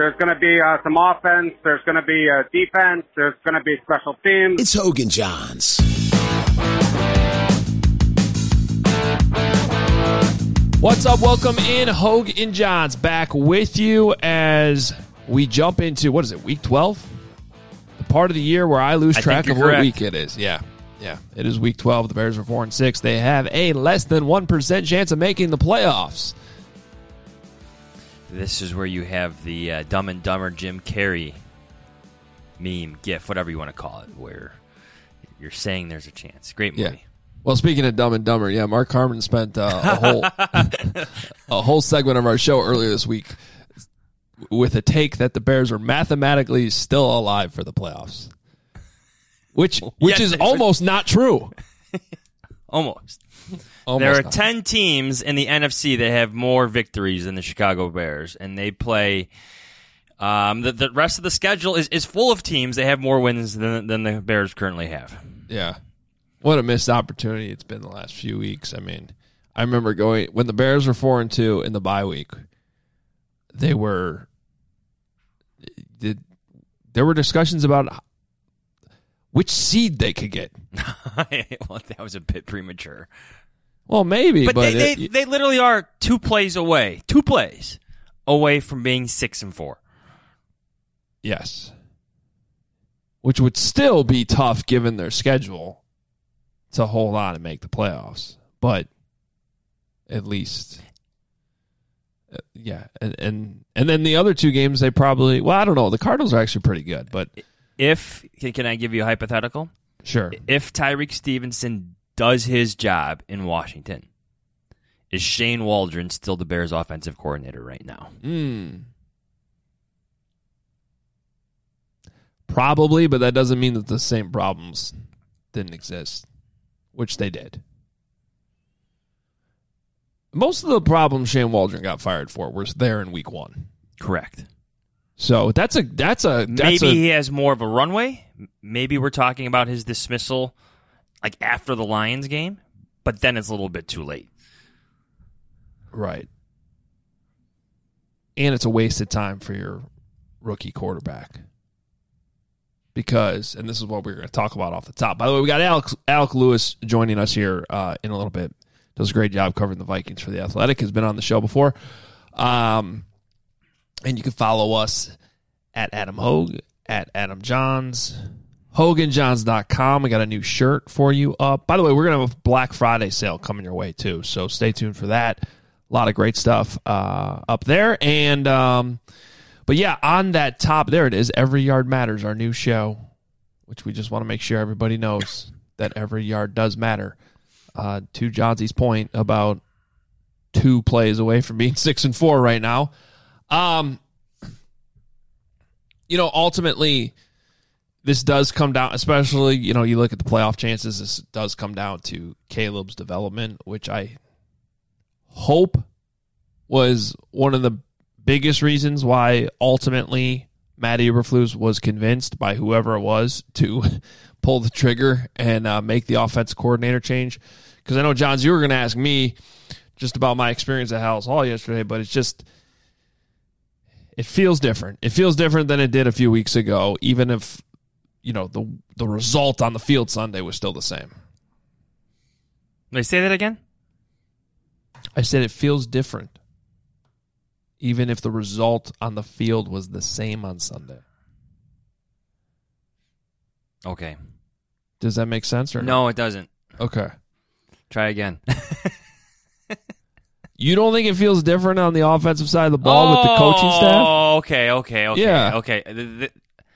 There's going to be some offense. There's going to be defense. There's going to be special teams. It's Hoge and Johns. What's up? Welcome in. Hoge and Johns back with you as we jump into, what is it, week 12? The part of the year where I lose track of what week it is. Yeah, it is week 12. The Bears are 4-6. They have a less than 1% chance of making the playoffs. This is where you have the Dumb and Dumber Jim Carrey meme, gif, whatever you want to call it, where you're saying there's a chance. Great movie. Yeah. Well, speaking of Dumb and Dumber, yeah, Mark Harmon spent a whole segment of our show earlier this week with a take that the Bears are mathematically still alive for the playoffs, which yes, is almost not true. Almost. There are 10 teams in the NFC that have more victories than the Chicago Bears, and they play the rest of the schedule is full of teams that have more wins than the Bears currently have. Yeah. What a missed opportunity it's been the last few weeks. I mean, I remember going when the Bears were 4-2 in the bye week. There were discussions about which seed they could get. Well, that was a bit premature. Well, maybe, but they literally are two plays away from being 6-4. Yes, which would still be tough given their schedule to hold on and make the playoffs, but at least, yeah. And then the other two games, they probably, well, I don't know. The Cardinals are actually pretty good, but can I give you a hypothetical? Sure. If Tyreek Stevenson does his job in Washington, is Shane Waldron still the Bears' offensive coordinator right now? Probably, but that doesn't mean that the same problems didn't exist. Which they did. Most of the problems Shane Waldron got fired for were there in week 1. Correct. So maybe he has more of a runway. Maybe we're talking about his dismissal like after the Lions game, but then it's a little bit too late. Right. And it's a wasted time for your rookie quarterback. Because, and this is what we're going to talk about off the top. By the way, we got Alec Lewis joining us here in a little bit. Does a great job covering the Vikings for The Athletic. Has been on the show before. And you can follow us at Adam Hoge, at Adam Johns, HoganJohns.com. We got a new shirt for you up. By the way, we're going to have a Black Friday sale coming your way, too. So stay tuned for that. A lot of great stuff up there. And, but yeah, on that top, there it is. Every Yard Matters, our new show, which we just want to make sure everybody knows that every yard does matter. To Johnsy's point about 2 plays away from being 6-4 right now. Ultimately, this does come down, especially, you look at the playoff chances, this does come down to Caleb's development, which I hope was one of the biggest reasons why ultimately Matt Eberflus was convinced by whoever it was to pull the trigger and make the offense coordinator change. Because I know, Johns, you were going to ask me just about my experience at Hallis Hall yesterday, but it feels different. It feels different than it did a few weeks ago, even if, the result on the field Sunday was still the same. May I say that again? I said it feels different, even if the result on the field was the same on Sunday. Okay. Does that make sense or no? No, it doesn't. Okay. Try again. You don't think it feels different on the offensive side of the ball with the coaching staff? Oh, okay. Yeah. Okay.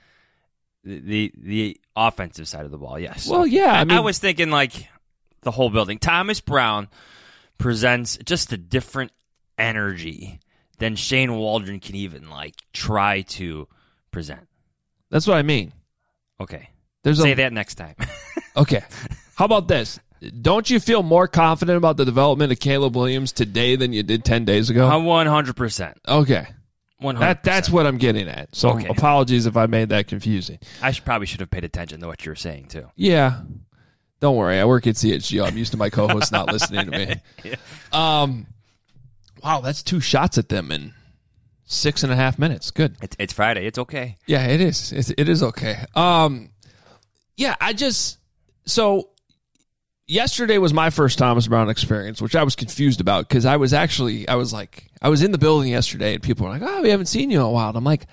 The offensive side of the ball, yes. Well, yeah. I was thinking like the whole building. Thomas Brown presents just a different energy than Shane Waldron can even try to present. That's what I mean. Okay. Say that next time. Okay. How about this? Don't you feel more confident about the development of Caleb Williams today than you did 10 days ago? 100%. Okay. 100%. That's what I'm getting at. So Apologies if I made that confusing. I probably should have paid attention to what you were saying, too. Yeah. Don't worry. I work at CHGO. I'm used to my co-hosts not listening to me. Yeah. Wow, that's 2 shots at them in 6.5 minutes. Good. It's Friday. It's okay. Yeah, it is. It is okay. So yesterday was my first Thomas Brown experience, which I was confused about because I was in the building yesterday and people were like, "Oh, we haven't seen you in a while." And I'm like,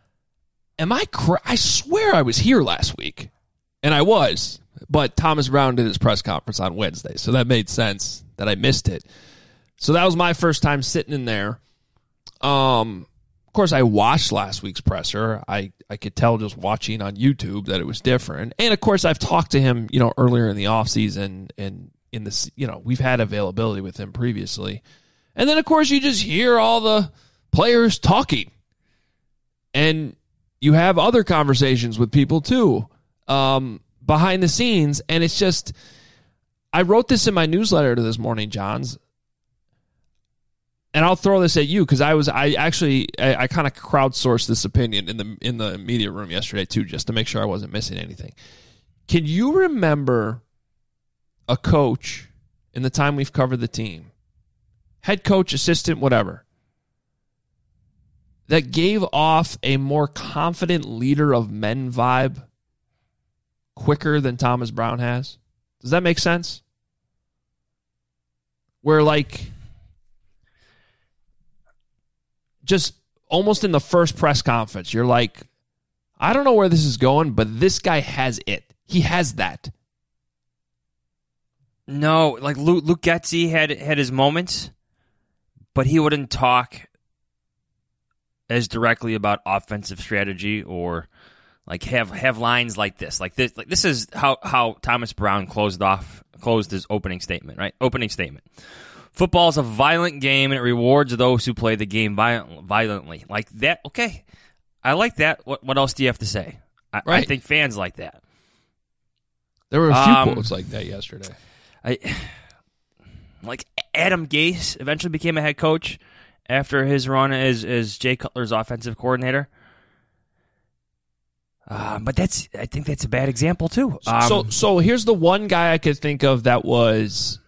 I swear I was here last week, and I was, but Thomas Brown did his press conference on Wednesday, so that made sense that I missed it. So that was my first time sitting in there. Of course, I watched last week's presser. I could tell just watching on YouTube that it was different. And, of course, I've talked to him, earlier in the offseason and in this, we've had availability with him previously. And then, of course, you just hear all the players talking. And you have other conversations with people, too, behind the scenes. And it's just, I wrote this in my newsletter to this morning, Johns. And I'll throw this at you because I kind of crowdsourced this opinion in the media room yesterday too, just to make sure I wasn't missing anything. Can you remember a coach in the time we've covered the team, head coach, assistant, whatever, that gave off a more confident leader of men vibe quicker than Thomas Brown has? Does that make sense? Where just almost in the first press conference, you're like, I don't know where this is going, but this guy has it. He has that. No, like Luke Getsy had his moments, but he wouldn't talk as directly about offensive strategy or like have lines like this. Like this is how Thomas Brown closed his opening statement, right? Opening statement. Football is a violent game, and it rewards those who play the game violently. Like that, okay. I like that. What else do you have to say? I think fans like that. There were a few quotes like that yesterday. Like Adam Gase eventually became a head coach after his run as Jay Cutler's offensive coordinator. But I think that's a bad example, too. So here's the one guy I could think of that was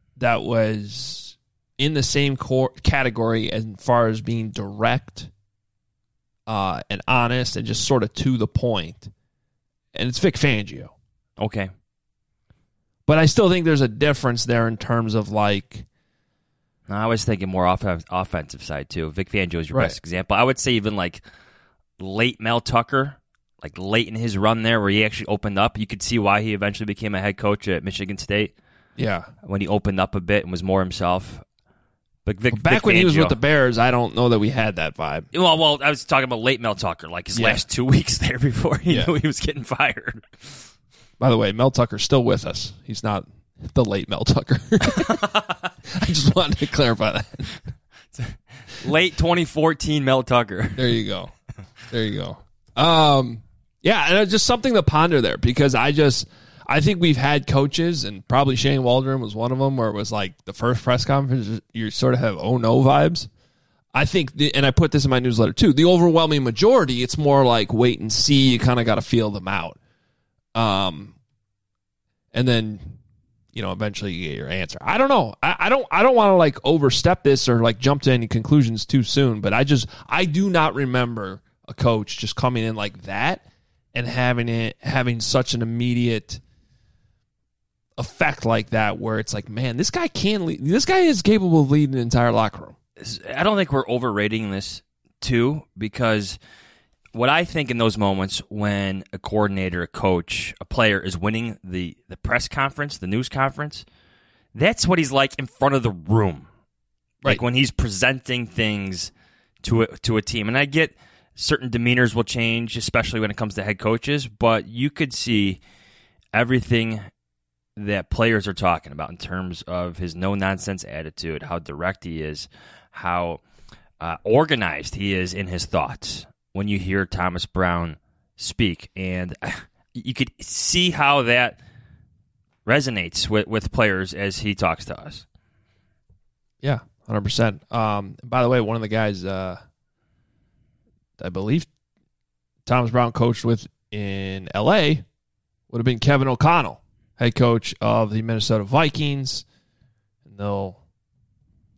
in the same category as far as being direct and honest and just sort of to the point. And it's Vic Fangio. Okay. But I still think there's a difference there in terms of like... I was thinking more offensive side, too. Vic Fangio is your best example. I would say even like late Mel Tucker, like late in his run there where he actually opened up. You could see why he eventually became a head coach at Michigan State. Yeah. When he opened up a bit and was more himself. But Vic when Fangio, he was with the Bears, I don't know that we had that vibe. Well, I was talking about late Mel Tucker, like his last 2 weeks there before he knew he was getting fired. By the way, Mel Tucker's still with us. He's not the late Mel Tucker. I just wanted to clarify that. Late 2014 Mel Tucker. There you go. Yeah, and it's just something to ponder there because I think we've had coaches, and probably Shane Waldron was one of them, where it was like the first press conference, you sort of have oh no vibes. I think, and I put this in my newsletter too, the overwhelming majority, it's more like wait and see. You kind of got to feel them out. And then, eventually you get your answer. I don't know. I don't want to like overstep this or like jump to any conclusions too soon, but I do not remember a coach just coming in like that and having such an immediate effect like that where it's like, man, this guy can lead. This guy is capable of leading an entire locker room. I don't think we're overrating this too, because what I think in those moments when a coordinator, a coach, a player is winning the press conference, the news conference, that's what he's like in front of the room. Right. Like when he's presenting things to a team. And I get certain demeanors will change, especially when it comes to head coaches, but you could see everything that players are talking about in terms of his no-nonsense attitude, how direct he is, how organized he is in his thoughts when you hear Thomas Brown speak. And you could see how that resonates with players as he talks to us. Yeah, 100%. By the way, one of the guys I believe Thomas Brown coached with in L.A. would have been Kevin O'Connell, head coach of the Minnesota Vikings. And they'll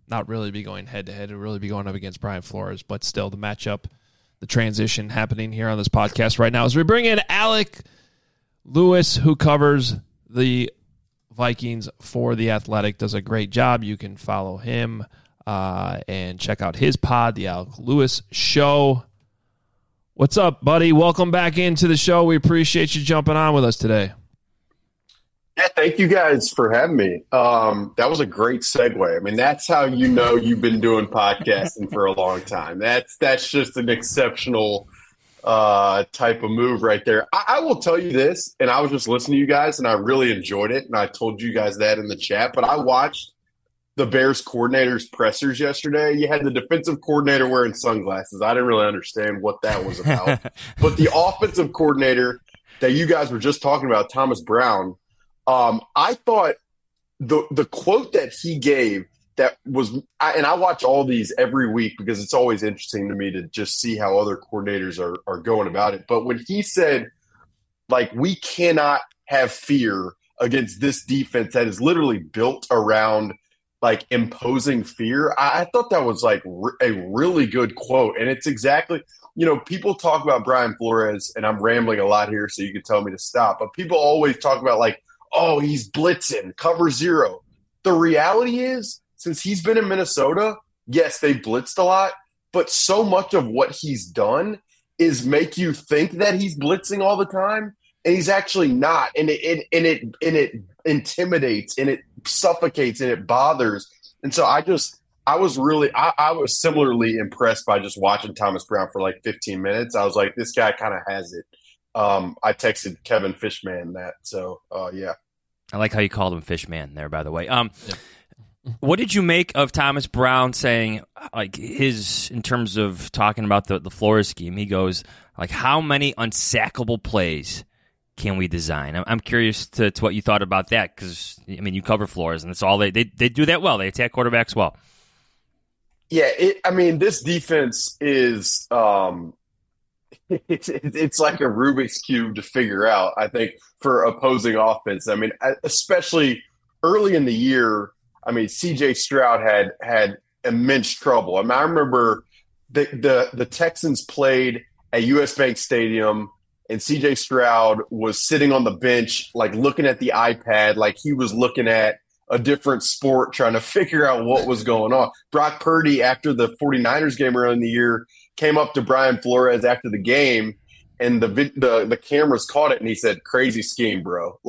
not really be going head-to-head. It'll really be going up against Brian Flores. But still, the matchup, the transition happening here on this podcast right now as we bring in Alec Lewis, who covers the Vikings for The Athletic, does a great job. You can follow him and check out his pod, The Alec Lewis Show. What's up, buddy? Welcome back into the show. We appreciate you jumping on with us today. Yeah, thank you guys for having me. That was a great segue. I mean, that's how you know you've been doing podcasting for a long time. That's just an exceptional type of move right there. I will tell you this, and I was just listening to you guys, and I really enjoyed it, and I told you guys that in the chat, but I watched the Bears coordinator's pressers yesterday. You had the defensive coordinator wearing sunglasses. I didn't really understand what that was about. But the offensive coordinator that you guys were just talking about, Thomas Brown, I thought the quote that he gave that was – and I watch all these every week because it's always interesting to me to just see how other coordinators are going about it. But when he said, like, we cannot have fear against this defense that is literally built around – like imposing fear. I thought that was like a really good quote. And it's exactly, people talk about Brian Flores, and I'm rambling a lot here, so you can tell me to stop. But people always talk about like, oh, he's blitzing, cover zero. The reality is, since he's been in Minnesota, yes, they blitzed a lot, but so much of what he's done is make you think that he's blitzing all the time. And he's actually not, and it intimidates, and it suffocates, and it bothers. And so I was similarly impressed by just watching Thomas Brown for like 15 minutes. I was like, this guy kind of has it. I texted Kevin Fishman that. So yeah, I like how you called him Fishman there, by the way. What did you make of Thomas Brown saying, like, in terms of talking about the Flores scheme? He goes, like, how many unsackable plays can we design? I'm curious to what you thought about that, because, I mean, you cover Flores, and it's all they do that well. They attack quarterbacks well. Yeah, this defense is it's like a Rubik's Cube to figure out, I think, for opposing offense. I mean, especially early in the year, I mean, C.J. Stroud had immense trouble. I mean, I remember the Texans played at U.S. Bank Stadium, and C.J. Stroud was sitting on the bench, like looking at the iPad, like he was looking at a different sport, trying to figure out what was going on. Brock Purdy, after the 49ers game early in the year, came up to Brian Flores after the game, and the cameras caught it, and he said, "Crazy scheme, bro."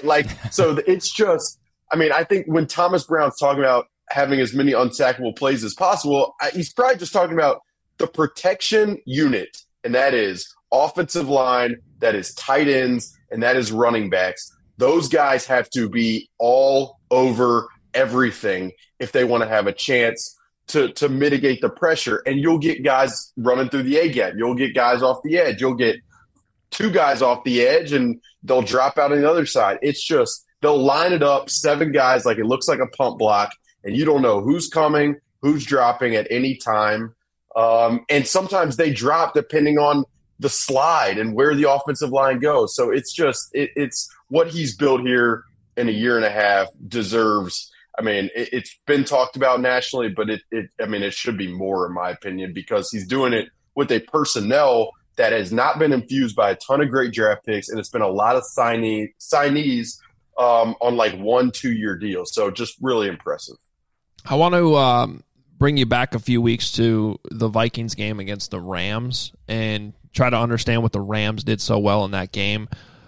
So it's just, I mean, I think when Thomas Brown's talking about having as many unsackable plays as possible, he's probably just talking about the protection unit, and that is offensive line, that is tight ends, and that is running backs. Those guys have to be all over everything if they want to have a chance to mitigate the pressure. And you'll get guys running through the A-gap. You'll get guys off the edge. You'll get two guys off the edge, and they'll drop out on the other side. It's just they'll line it up, 7 guys, like it looks like a pump block, and you don't know who's coming, who's dropping at any time. And sometimes they drop depending on the slide and where the offensive line goes. So it's just it's what he's built here in a year and a half deserves. I mean, it's been talked about nationally, but it should be more, in my opinion, because he's doing it with a personnel that has not been infused by a ton of great draft picks, and it's been a lot of signees on like 1-2 year deals. So just really impressive. I want to bring you back a few weeks to the Vikings game against the Rams and try to understand what the Rams did so well in that game.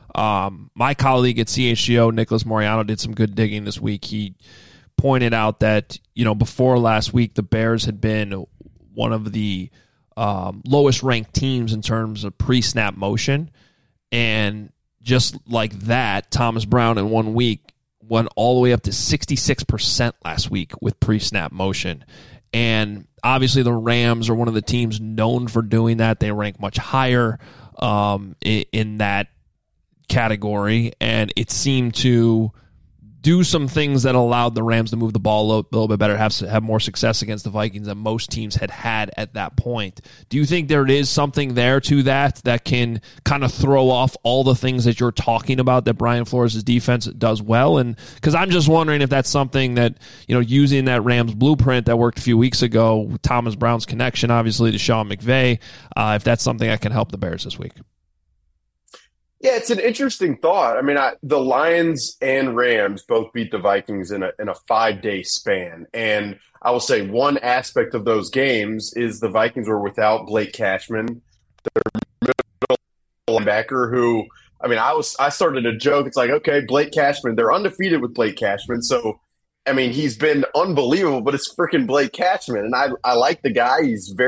My colleague at CHGO, Nicholas Moriano, did some good digging this week. He pointed out that, before last week, the Bears had been one of the lowest ranked teams in terms of pre-snap motion. And just like that, Thomas Brown in 1 week went all the way up to 66% last week with pre-snap motion. And obviously the Rams are one of the teams known for doing that. They rank much higher in that category, and it seemed to do some things that allowed the Rams to move the ball a little bit better, have more success against the Vikings than most teams had at that point. Do you think there is something there to that can kind of throw off all the things that you're talking about that Brian Flores' defense does well? And because I'm just wondering if that's something that, using that Rams blueprint that worked a few weeks ago, with Thomas Brown's connection, obviously, to Sean McVay, if that's something that can help the Bears this week. Yeah, it's an interesting thought. I mean, the Lions and Rams both beat the Vikings in a 5-day span. And I will say one aspect of those games is the Vikings were without Blake Cashman, their middle linebacker, who, I mean, I started to joke. It's like, okay, Blake Cashman, they're undefeated with Blake Cashman. So, I mean, he's been unbelievable, but it's freaking Blake Cashman. And I like the guy.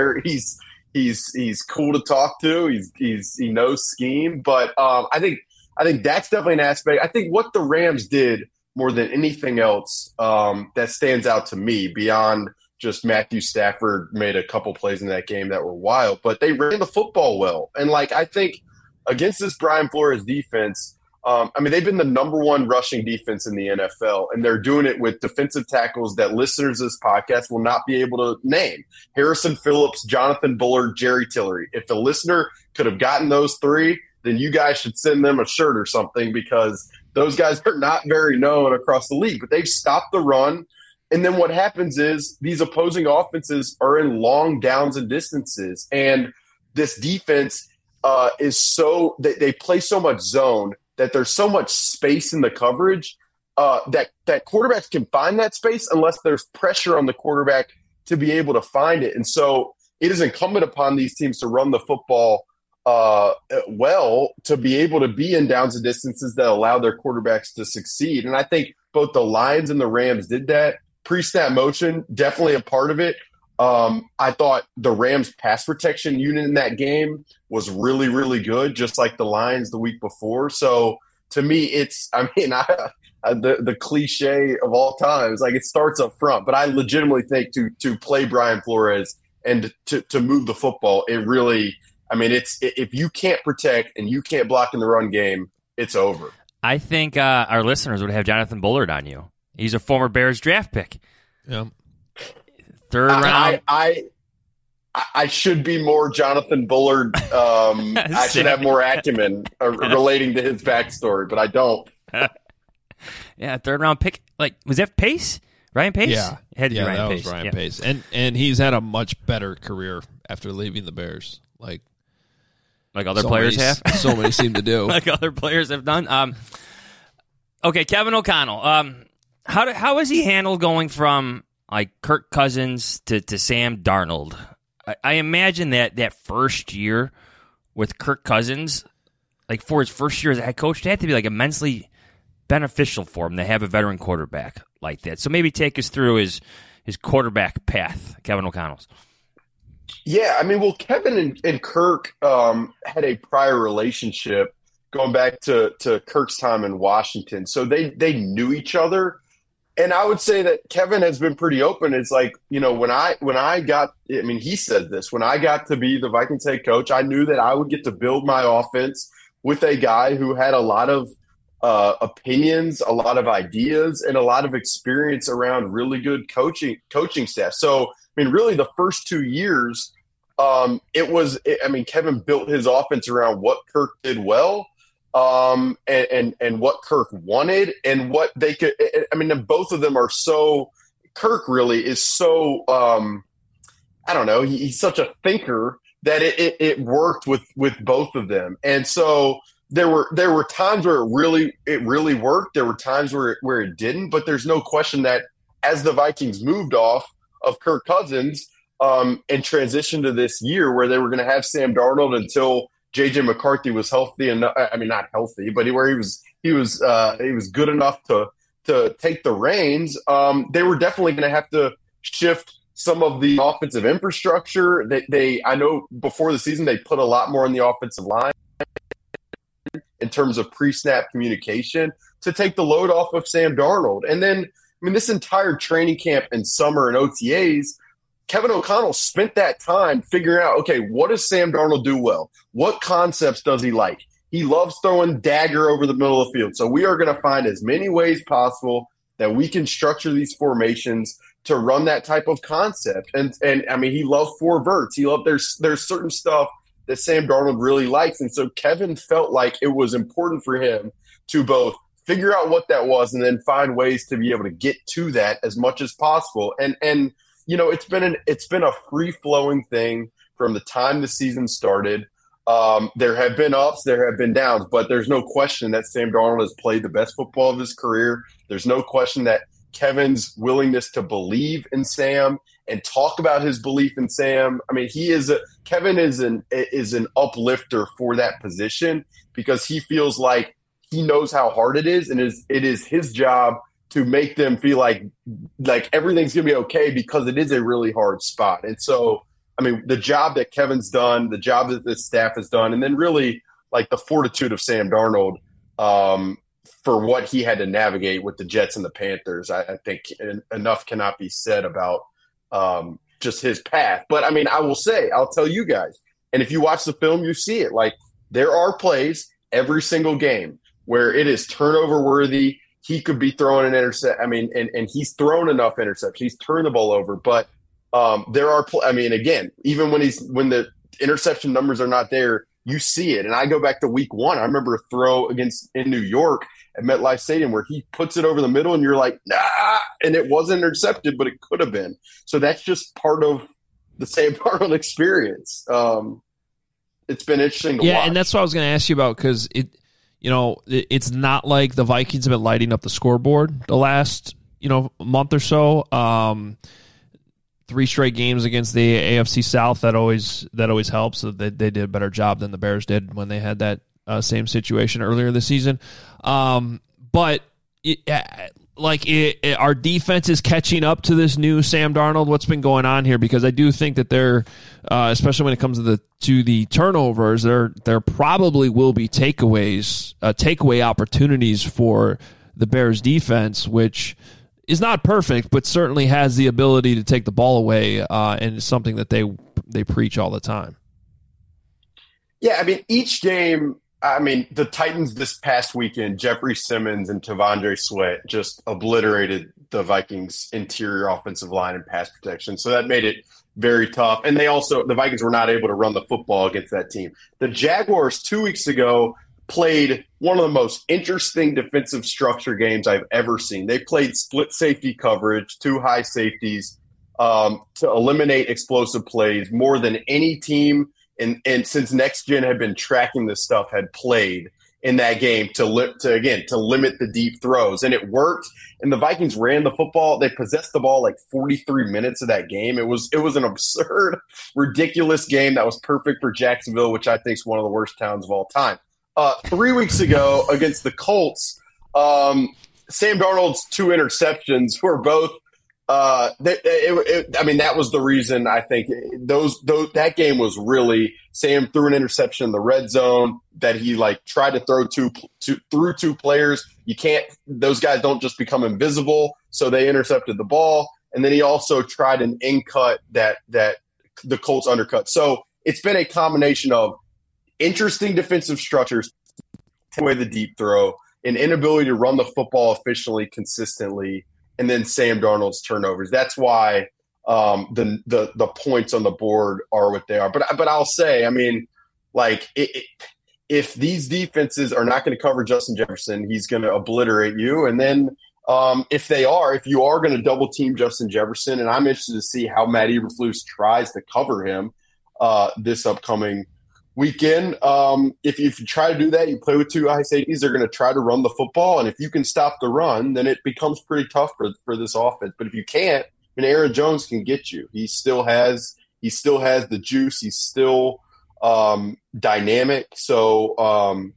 He's cool to talk to. He knows scheme, but I think that's definitely an aspect. I think what the Rams did more than anything else that stands out to me beyond just Matthew Stafford made a couple plays in that game that were wild, but they ran the football well. And I think against this Brian Flores defense, they've been the number one rushing defense in the NFL, and they're doing it with defensive tackles that listeners of this podcast will not be able to name. Harrison Phillips, Jonathan Bullard, Jerry Tillery. If the listener could have gotten those three, then you guys should send them a shirt or something, because those guys are not very known across the league. But they've stopped the run, and then what happens is these opposing offenses are in long downs and distances, and this defense is so – they play so much zone that there's so much space in the coverage that quarterbacks can find that space unless there's pressure on the quarterback to be able to find it. And so it is incumbent upon these teams to run the football well to be able to be in downs and distances that allow their quarterbacks to succeed. And I think both the Lions and the Rams did that. Pre-snap motion, definitely a part of it. I thought the Rams pass protection unit in that game was really, really good, just like the Lions the week before. So to me, the cliche of all time is it starts up front, but I legitimately think to play Brian Flores and to move the football, it really, if you can't protect and you can't block in the run game, it's over. I think our listeners would have Jonathan Bullard on you. He's a former Bears draft pick. Yeah. Third round. I should be more Jonathan Bullard. I should have more acumen relating to his backstory, but I don't. Yeah, third round pick. Was that Pace? Ryan Pace? Yeah, it had to be Ryan that Pace. Was Ryan Pace, and he's had a much better career after leaving the Bears. Like other players have. So many seem to do. Like other players have done. Okay, Kevin O'Connell. How has he handled going from Kirk Cousins to Sam Darnold? I imagine that first year with Kirk Cousins, for his first year as a head coach, it had to be immensely beneficial for him to have a veteran quarterback like that. So maybe take us through his quarterback path, Kevin O'Connell's. Yeah, Kevin and Kirk had a prior relationship going back to Kirk's time in Washington. So they knew each other. And I would say that Kevin has been pretty open. It's when I got, he said this, when I got to be the Vikings head coach, I knew that I would get to build my offense with a guy who had a lot of opinions, a lot of ideas, and a lot of experience around really good coaching staff. So, really the first 2 years, Kevin built his offense around what Kirk did well. And what Kirk wanted and what they could. Both of them are so. Kirk really is so. He's such a thinker that it worked with both of them, and so there were times where it really worked. There were times where it didn't, but there's no question that as the Vikings moved off of Kirk Cousins and transitioned to this year where they were going to have Sam Darnold until J.J. McCarthy was healthy enough. Not healthy, but where he was good enough to take the reins. They were definitely going to have to shift some of the offensive infrastructure. I know before the season they put a lot more on the offensive line in terms of pre-snap communication to take the load off of Sam Darnold. And then, this entire training camp and summer and OTAs. Kevin O'Connell spent that time figuring out, okay, what does Sam Darnold do well? What concepts does he like? He loves throwing dagger over the middle of the field. So we are going to find as many ways possible that we can structure these formations to run that type of concept. And I mean, he loved four verts. He loved there's certain stuff that Sam Darnold really likes. And so Kevin felt like it was important for him to both figure out what that was and then find ways to be able to get to that as much as possible. And you know, it's been a free-flowing thing from the time the season started. There have been ups, there have been downs, but there's no question that Sam Darnold has played the best football of his career. There's no question that Kevin's willingness to believe in Sam and talk about his belief in Sam. I mean, Kevin is an uplifter for that position because he feels like he knows how hard it is, and it is his job to make them feel like everything's going to be okay because it is a really hard spot. And so, I mean, the job that Kevin's done, the job that this staff has done, and then really like the fortitude of Sam Darnold for what he had to navigate with the Jets and the Panthers, I think enough cannot be said about just his path. But, I mean, I'll tell you guys, and if you watch the film, you see it. Like, there are plays every single game where it is turnover worthy. He could be throwing an intercept. I mean, and he's thrown enough interceptions. He's turned the ball over. But there are, I mean, again, even when the interception numbers are not there, you see it. And I go back to week 1. I remember a throw in New York at MetLife Stadium where he puts it over the middle and you're like, nah, and it wasn't intercepted, but it could have been. So that's just part of the Sam Darnold experience. It's been interesting to watch. Yeah, and that's what I was going to ask you about because it's not like the Vikings have been lighting up the scoreboard the last, month or so. 3 straight games against the AFC South, that always helps. So they did a better job than the Bears did when they had that same situation earlier this season. But our defense is catching up to this new Sam Darnold. What's been going on here? Because I do think that they're, especially when it comes to the turnovers, there probably will be takeaway opportunities for the Bears defense, which is not perfect, but certainly has the ability to take the ball away, and it's something that they preach all the time. Yeah, I mean, each game, the Titans this past weekend, Jeffrey Simmons and T'Vondre Sweat just obliterated the Vikings' interior offensive line and pass protection. So that made it very tough. And the Vikings were not able to run the football against that team. The Jaguars 2 weeks ago played one of the most interesting defensive structure games I've ever seen. They played split safety coverage, 2 high safeties to eliminate explosive plays more than any team. And since Next Gen had been tracking this stuff, had played in that game to limit the deep throws. And it worked. And the Vikings ran the football. They possessed the ball like 43 minutes of that game. It was an absurd, ridiculous game that was perfect for Jacksonville, which I think is one of the worst towns of all time. 3 weeks ago against the Colts, Sam Darnold's 2 interceptions were both that was the reason I think that game was really Sam threw an interception in the red zone that he tried to throw through 2 players. Those guys don't just become invisible, so they intercepted the ball. And then he also tried an in cut that the Colts undercut. So it's been a combination of interesting defensive structures, take away the deep throw, an inability to run the football efficiently, consistently, and then Sam Darnold's turnovers. That's why the points on the board are what they are. But I'll say, if these defenses are not going to cover Justin Jefferson, he's going to obliterate you. And then if you are going to double team Justin Jefferson, and I'm interested to see how Matt Eberflus tries to cover him this upcoming weekend. If you try to do that, you play with 2 high safeties, they're going to try to run the football. And if you can stop the run, then it becomes pretty tough for this offense. But if you can't, Aaron Jones can get you. He still has the juice. He's still dynamic. So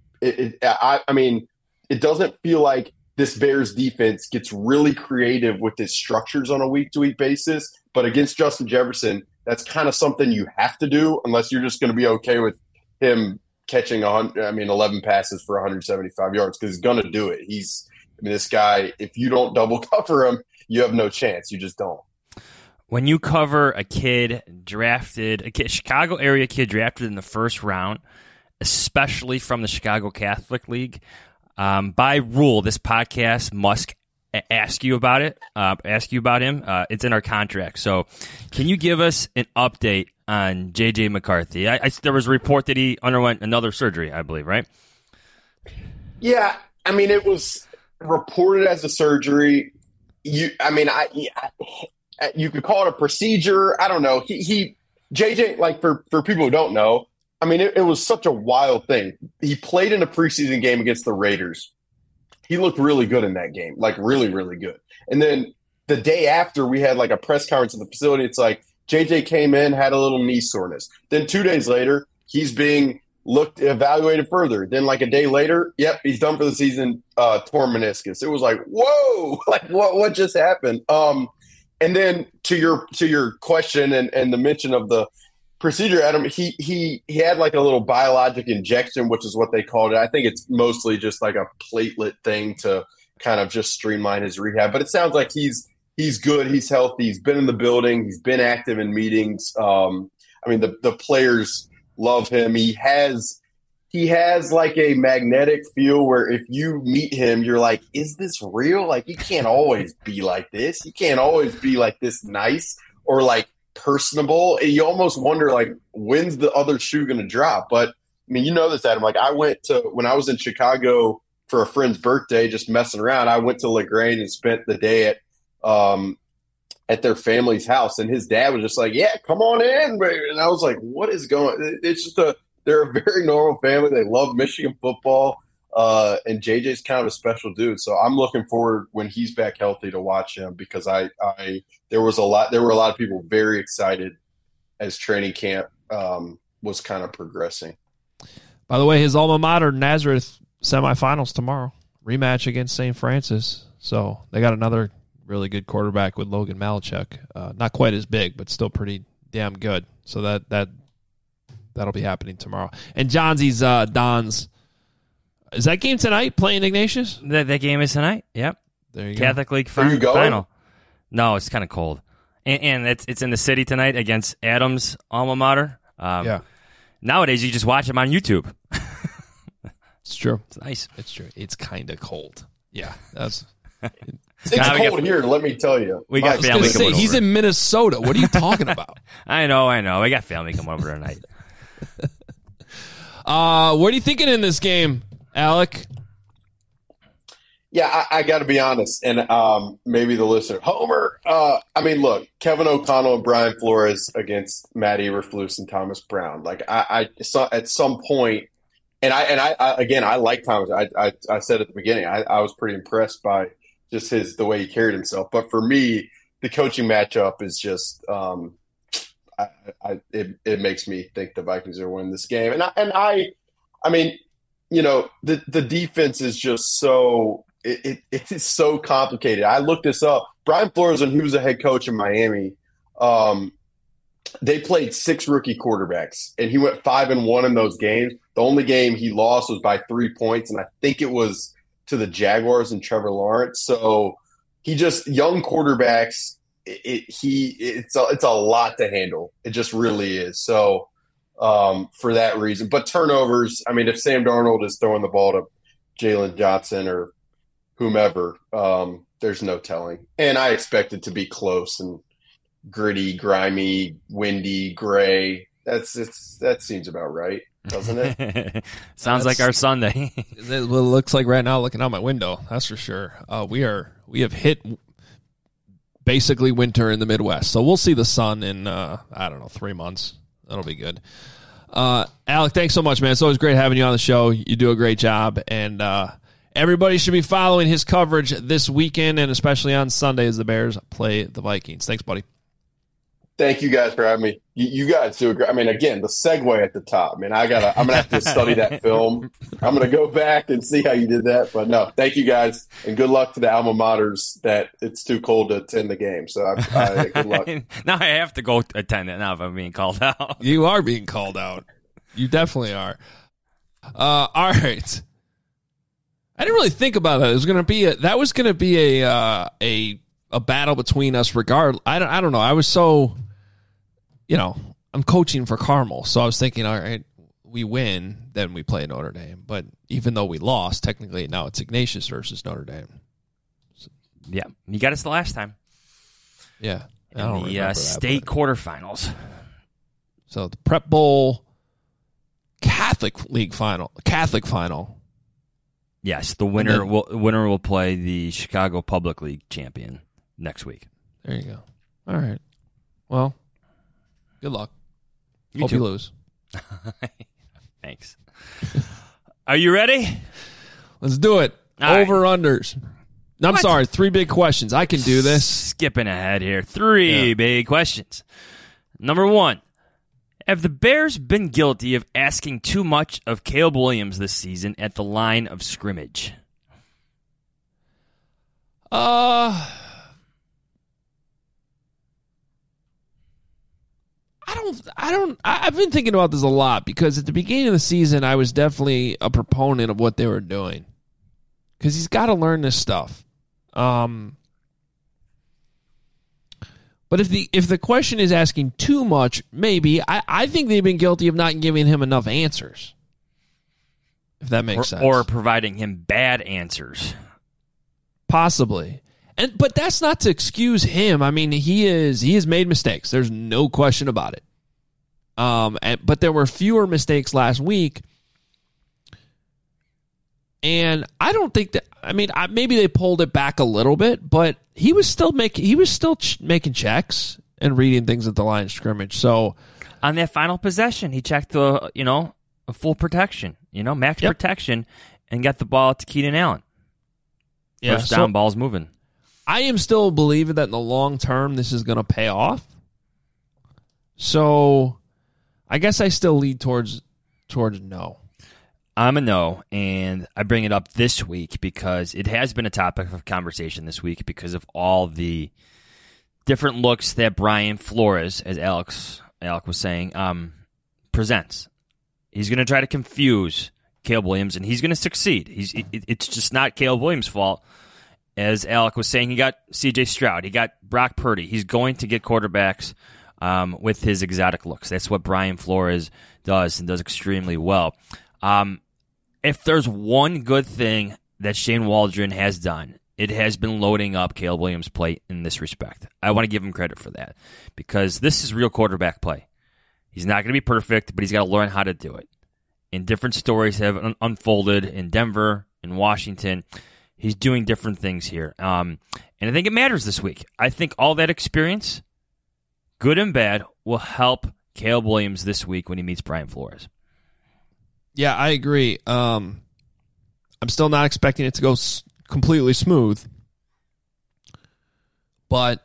it doesn't feel like this Bears defense gets really creative with its structures on a week-to-week basis. But against Justin Jefferson, that's kind of something you have to do unless you're just going to be okay with him catching 11 passes for 175 yards because he's going to do it. This guy, if you don't double cover him, you have no chance. You just don't. When you cover a Chicago area kid drafted in the first round, especially from the Chicago Catholic League, by rule, this podcast must ask you about it. Ask you about him. It's in our contract. So, can you give us an update on JJ McCarthy? There was a report that he underwent another surgery, I believe, right? Yeah, I mean, it was reported as a surgery. You could call it a procedure. I don't know. JJ, like for people who don't know, I mean, it was such a wild thing. He played in a preseason game against the Raiders. He looked really good in that game, like really, really good. And then the day after, we had like a press conference at the facility. It's like JJ came in, had a little knee soreness. Then 2 days later, he's being evaluated further. Then like a day later, yep, he's done for the season, torn meniscus. It was like, whoa, like what just happened? And then to your question and the mention of the procedure, Adam, he had like a little biologic injection, which is what they called it. I think it's mostly just like a platelet thing to kind of just streamline his rehab. But it sounds like he's good, he's healthy, he's been in the building, he's been active in meetings. I mean, the players love him. He has like a magnetic feel where if you meet him, you're like, is this real? Like, he can't always be like this. He can't always be like this nice or like personable. And you almost wonder, like, when's the other shoe going to drop? But, I mean, you know this, Adam. Like, when I was in Chicago for a friend's birthday, just messing around, I went to LaGrange and spent the day at their family's house. And his dad was just like, yeah, come on in. And I was like, what is going – it's just they're a very normal family. They love Michigan football, and JJ's kind of a special dude. So I'm looking forward when he's back healthy to watch him because there were a lot of people very excited as training camp was kind of progressing. By the way, his alma mater, Nazareth, semifinals tomorrow, rematch against St. Francis. So they got another really good quarterback with Logan Malachek. Not quite as big, but still pretty damn good. So that'll be happening tomorrow. And Johnsy's Don's. Is that game tonight? Playing Ignatius? That game is tonight. Yep. There you Catholic go. League you final. No, it's kind of cold, and it's in the city tonight against Adams' alma mater. Yeah. Nowadays, you just watch them on YouTube. It's true. It's nice. It's true. It's kind of cold. Yeah, that's. It's cold here, let me tell you. We got family coming over. He's in Minnesota. What are you talking about? I know. We got family coming over tonight. What are you thinking in this game, Alec? Yeah, I got to be honest, and maybe the listener, Homer. I mean, look, Kevin O'Connell and Brian Flores against Matt Eberflus and Thomas Brown. Like I saw at some point, and I like Thomas. I said at the beginning, I was pretty impressed by just the way he carried himself. But for me, the coaching matchup is just it makes me think the Vikings are winning this game. And I mean, you know, the defense is just so it is so complicated. I looked this up. Brian Flores, when he was a head coach in Miami, they played 6 rookie quarterbacks, and he went 5-1 in those games. The only game he lost was by 3 points, and I think it was to the Jaguars and Trevor Lawrence. So he just young quarterbacks. It's a lot to handle. It just really is. So for that reason, but turnovers. I mean, if Sam Darnold is throwing the ball to Jalen Johnson or whomever, there's no telling. And I expect it to be close and gritty, grimy, windy, gray. That seems about right, doesn't it? Sounds like our Sunday. What it looks like right now, looking out my window. That's for sure. We have hit basically winter in the Midwest, so we'll see the sun in 3 months. That'll be good. Alec, thanks so much, man. It's always great having you on the show. You do a great job, and everybody should be following his coverage this weekend, and especially on Sunday as the Bears play the Vikings. Thanks, buddy. Thank you guys for having me. You guys do a great. I mean, again, the segue at the top. Man, I'm gonna have to study that film. I'm gonna go back and see how you did that. But no, thank you guys, and good luck to the alma maters that it's too cold to attend the game. So good luck. Now I have to go attend it now if I'm being called out. You are being called out. You definitely are. All right. I didn't really think about that. It was gonna be a battle between us. Regardless, I don't know. I was so. I'm coaching for Carmel, so I was thinking, all right, we win, then we play Notre Dame. But even though we lost, technically now it's Ignatius versus Notre Dame. So Yeah, he got us the last time. Yeah. In the state quarterfinals. So the Prep Bowl Catholic final. Yes, the winner will play the Chicago Public League champion next week. There you go. All right. Well, good luck. You Hope too. you lose. Thanks. Are you ready? Let's do it. All right. Over-unders. No, I'm sorry. 3 big questions. I can do this. Skipping ahead here. 3 big questions. Number 1. Have the Bears been guilty of asking too much of Caleb Williams this season at the line of scrimmage? I've been thinking about this a lot because at the beginning of the season, I was definitely a proponent of what they were doing because he's got to learn this stuff. But if the question is asking too much, maybe I think they've been guilty of not giving him enough answers. If that makes sense, or providing him bad answers, possibly. But that's not to excuse him. I mean, he has made mistakes. There's no question about it. But there were fewer mistakes last week. And I don't think that. I mean, maybe they pulled it back a little bit, but he was still making checks and reading things at the line of scrimmage. So on that final possession, he checked a full protection, max protection, and got the ball to Keenan Allen. Yeah, first down, ball's moving. I am still believing that in the long term this is going to pay off. So I guess I still lead towards no. I'm a no, and I bring it up this week because it has been a topic of conversation this week because of all the different looks that Brian Flores, as Alec was saying, presents. He's going to try to confuse Caleb Williams, and he's going to succeed. It's just not Caleb Williams' fault. As Alec was saying, he got C.J. Stroud. He got Brock Purdy. He's going to get quarterbacks with his exotic looks. That's what Brian Flores does and does extremely well. If there's one good thing that Shane Waldron has done, it has been loading up Caleb Williams' plate in this respect. I want to give him credit for that because this is real quarterback play. He's not going to be perfect, but he's got to learn how to do it. And different stories have unfolded in Denver, in Washington. He's doing different things here. And I think it matters this week. I think all that experience, good and bad, will help Caleb Williams this week when he meets Brian Flores. Yeah, I agree. I'm still not expecting it to go completely smooth. But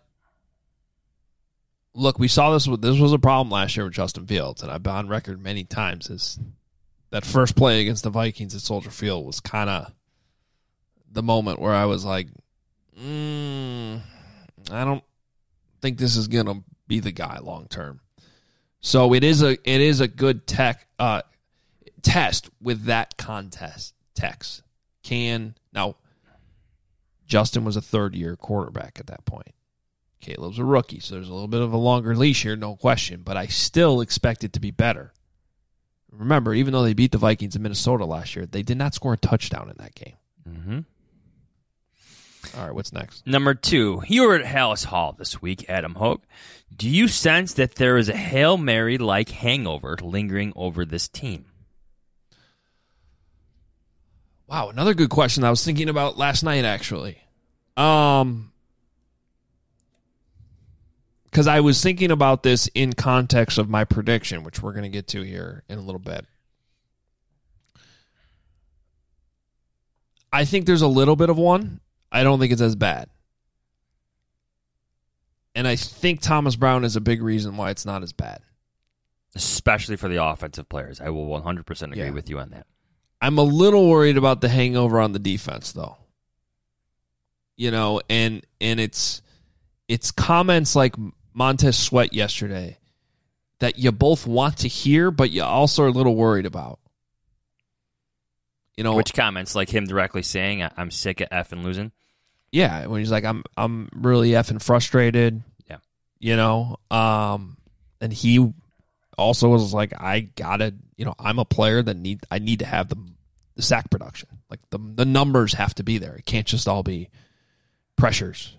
look, we saw this was a problem last year with Justin Fields, and I've been on record many times as that first play against the Vikings at Soldier Field was kind of the moment where I was like, I don't think this is going to be the guy long term. So it is a good test with that text. Now Justin was a third-year quarterback at that point. Caleb's a rookie, so there's a little bit of a longer leash here, no question, but I still expect it to be better. Remember, even though they beat the Vikings in Minnesota last year, they did not score a touchdown in that game. Mm-hmm. All right, what's next? Number 2, you were at Hallis Hall this week, Adam Hogue. Do you sense that there is a Hail Mary-like hangover lingering over this team? Wow, another good question I was thinking about last night, actually. Because I was thinking about this in context of my prediction, which we're going to get to here in a little bit. I think there's a little bit of one. I don't think it's as bad. And I think Thomas Brown is a big reason why it's not as bad. Especially for the offensive players. I will 100% agree with you on that. I'm a little worried about the hangover on the defense, though. And it's comments like Montez Sweat yesterday that you both want to hear, but you also are a little worried about. Which comments? Like him directly saying, "I'm sick of effing losing." Yeah, when he's like, "I'm really effing frustrated." Yeah, and he also was like, "I gotta, I'm a player that I need to have the sack production. Like the numbers have to be there. It can't just all be pressures.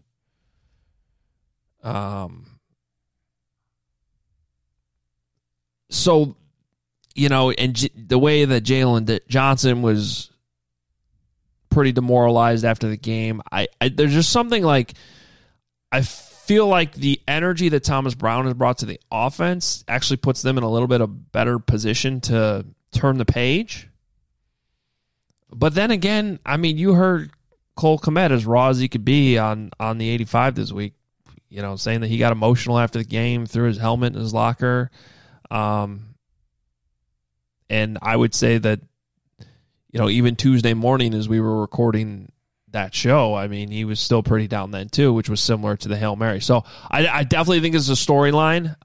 So, and the way that Jalen Johnson was pretty demoralized after the game, I there's just something like, I feel like the energy that Thomas Brown has brought to the offense actually puts them in a little bit of better position to turn the page. But then again, I mean, you heard Cole Kmet, as raw as he could be on the 85 this week, saying that he got emotional after the game, threw his helmet in his locker. And I would say that, even Tuesday morning as we were recording that show, I mean, he was still pretty down then too, which was similar to the Hail Mary. So I definitely think it's a storyline.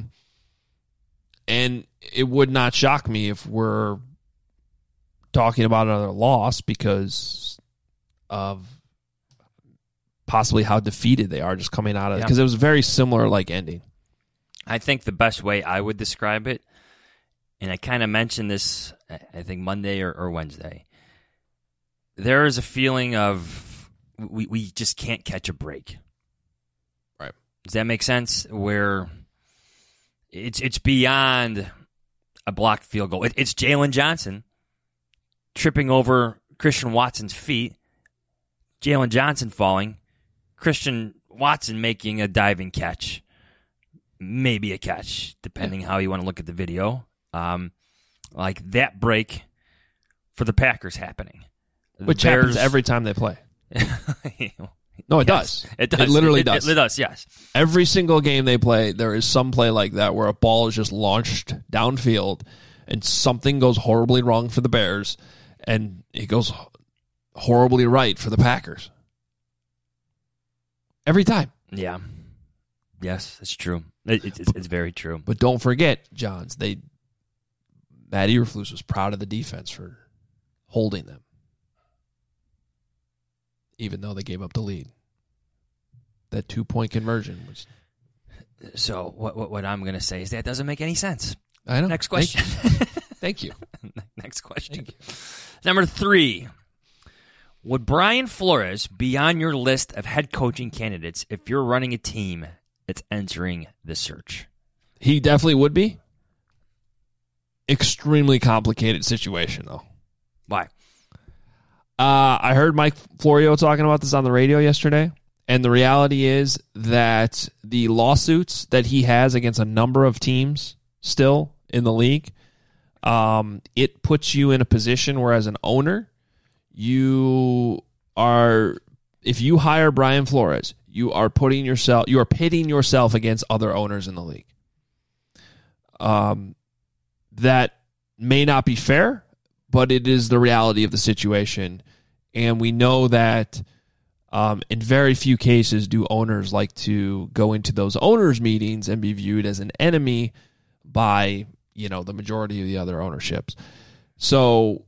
And it would not shock me if we're talking about another loss because of possibly how defeated they are just coming out of it. Because it was a very similar ending. I think the best way I would describe it, and I kind of mentioned this, I think Monday or Wednesday, there is a feeling of we just can't catch a break. Right. Does that make sense? Where it's beyond a blocked field goal. It's Jalen Johnson tripping over Christian Watson's feet, Jalen Johnson falling, Christian Watson making a diving catch, maybe a catch, depending how you want to look at the video. Like that break for the Packers happening. Which happens every time they play. No, it does. It does. It literally does. It does, yes. Every single game they play, there is some play like that where a ball is just launched downfield and something goes horribly wrong for the Bears and it goes horribly right for the Packers. Every time. Yeah. Yes, it's true. It's very true. But don't forget, Johns, Matt Eberflus was proud of the defense for holding them, even though they gave up the lead. That 2-point conversion was. So what I'm going to say is that doesn't make any sense. I know. Next question. Thank you. Next question. Thank you. Number 3. Would Brian Flores be on your list of head coaching candidates if you're running a team that's entering the search? He definitely would be. Extremely complicated situation, though. Why? I heard Mike Florio talking about this on the radio yesterday, and the reality is that the lawsuits that he has against a number of teams still in the league, it puts you in a position where, as an owner, if you hire Brian Flores, you are pitting yourself against other owners in the league. That may not be fair, but it is the reality of the situation. And we know that in very few cases do owners like to go into those owners' meetings and be viewed as an enemy by, the majority of the other ownerships. So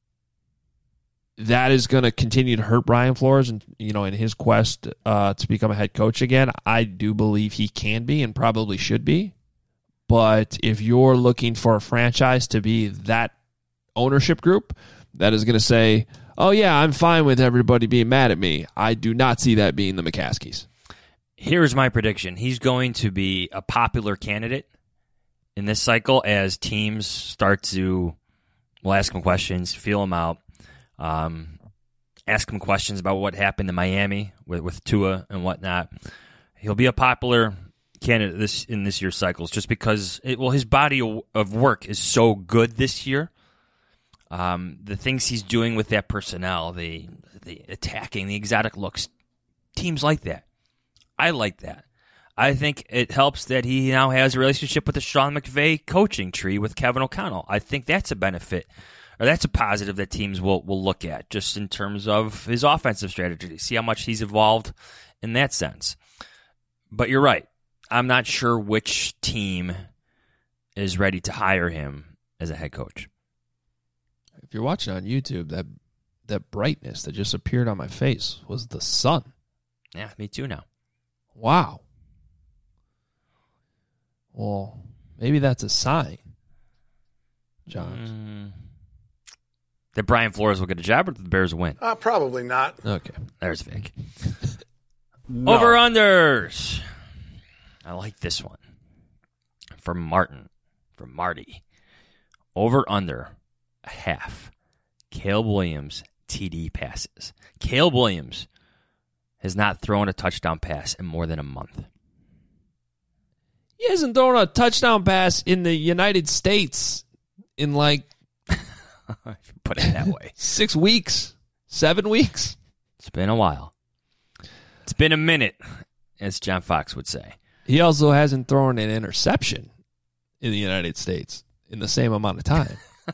that is going to continue to hurt Brian Flores and, in his quest to become a head coach again. I do believe he can be and probably should be. But if you're looking for a franchise to be that ownership group that is going to say, oh, yeah, I'm fine with everybody being mad at me, I do not see that being the McCaskies. Here's my prediction. He's going to be a popular candidate in this cycle as teams start to ask him questions, feel him out, ask him questions about what happened in Miami with Tua and whatnot. He'll be a popular candidate in this year's cycles just because his body of work is so good this year. The things he's doing with that personnel, the attacking, the exotic looks, teams like that. I like that. I think it helps that he now has a relationship with the Sean McVay coaching tree with Kevin O'Connell. I think that's a benefit, or that's a positive that teams will look at just in terms of his offensive strategy, see how much he's evolved in that sense. But you're right. I'm not sure which team is ready to hire him as a head coach. If you're watching on YouTube, that brightness that just appeared on my face was the sun. Yeah, me too now. Wow. Well, maybe that's a sign, John. That Brian Flores will get a job or the Bears win? Probably not. Okay. There's Vic. No. Over-unders. I like this one. From Marty. Over-under a half. Caleb Williams TD passes. Caleb Williams has not thrown a touchdown pass in more than a month. He hasn't thrown a touchdown pass in the United States in like Put it that way. 6 weeks, 7 weeks. It's been a while. It's been a minute, as John Fox would say. He also hasn't thrown an interception in the United States in the same amount of time.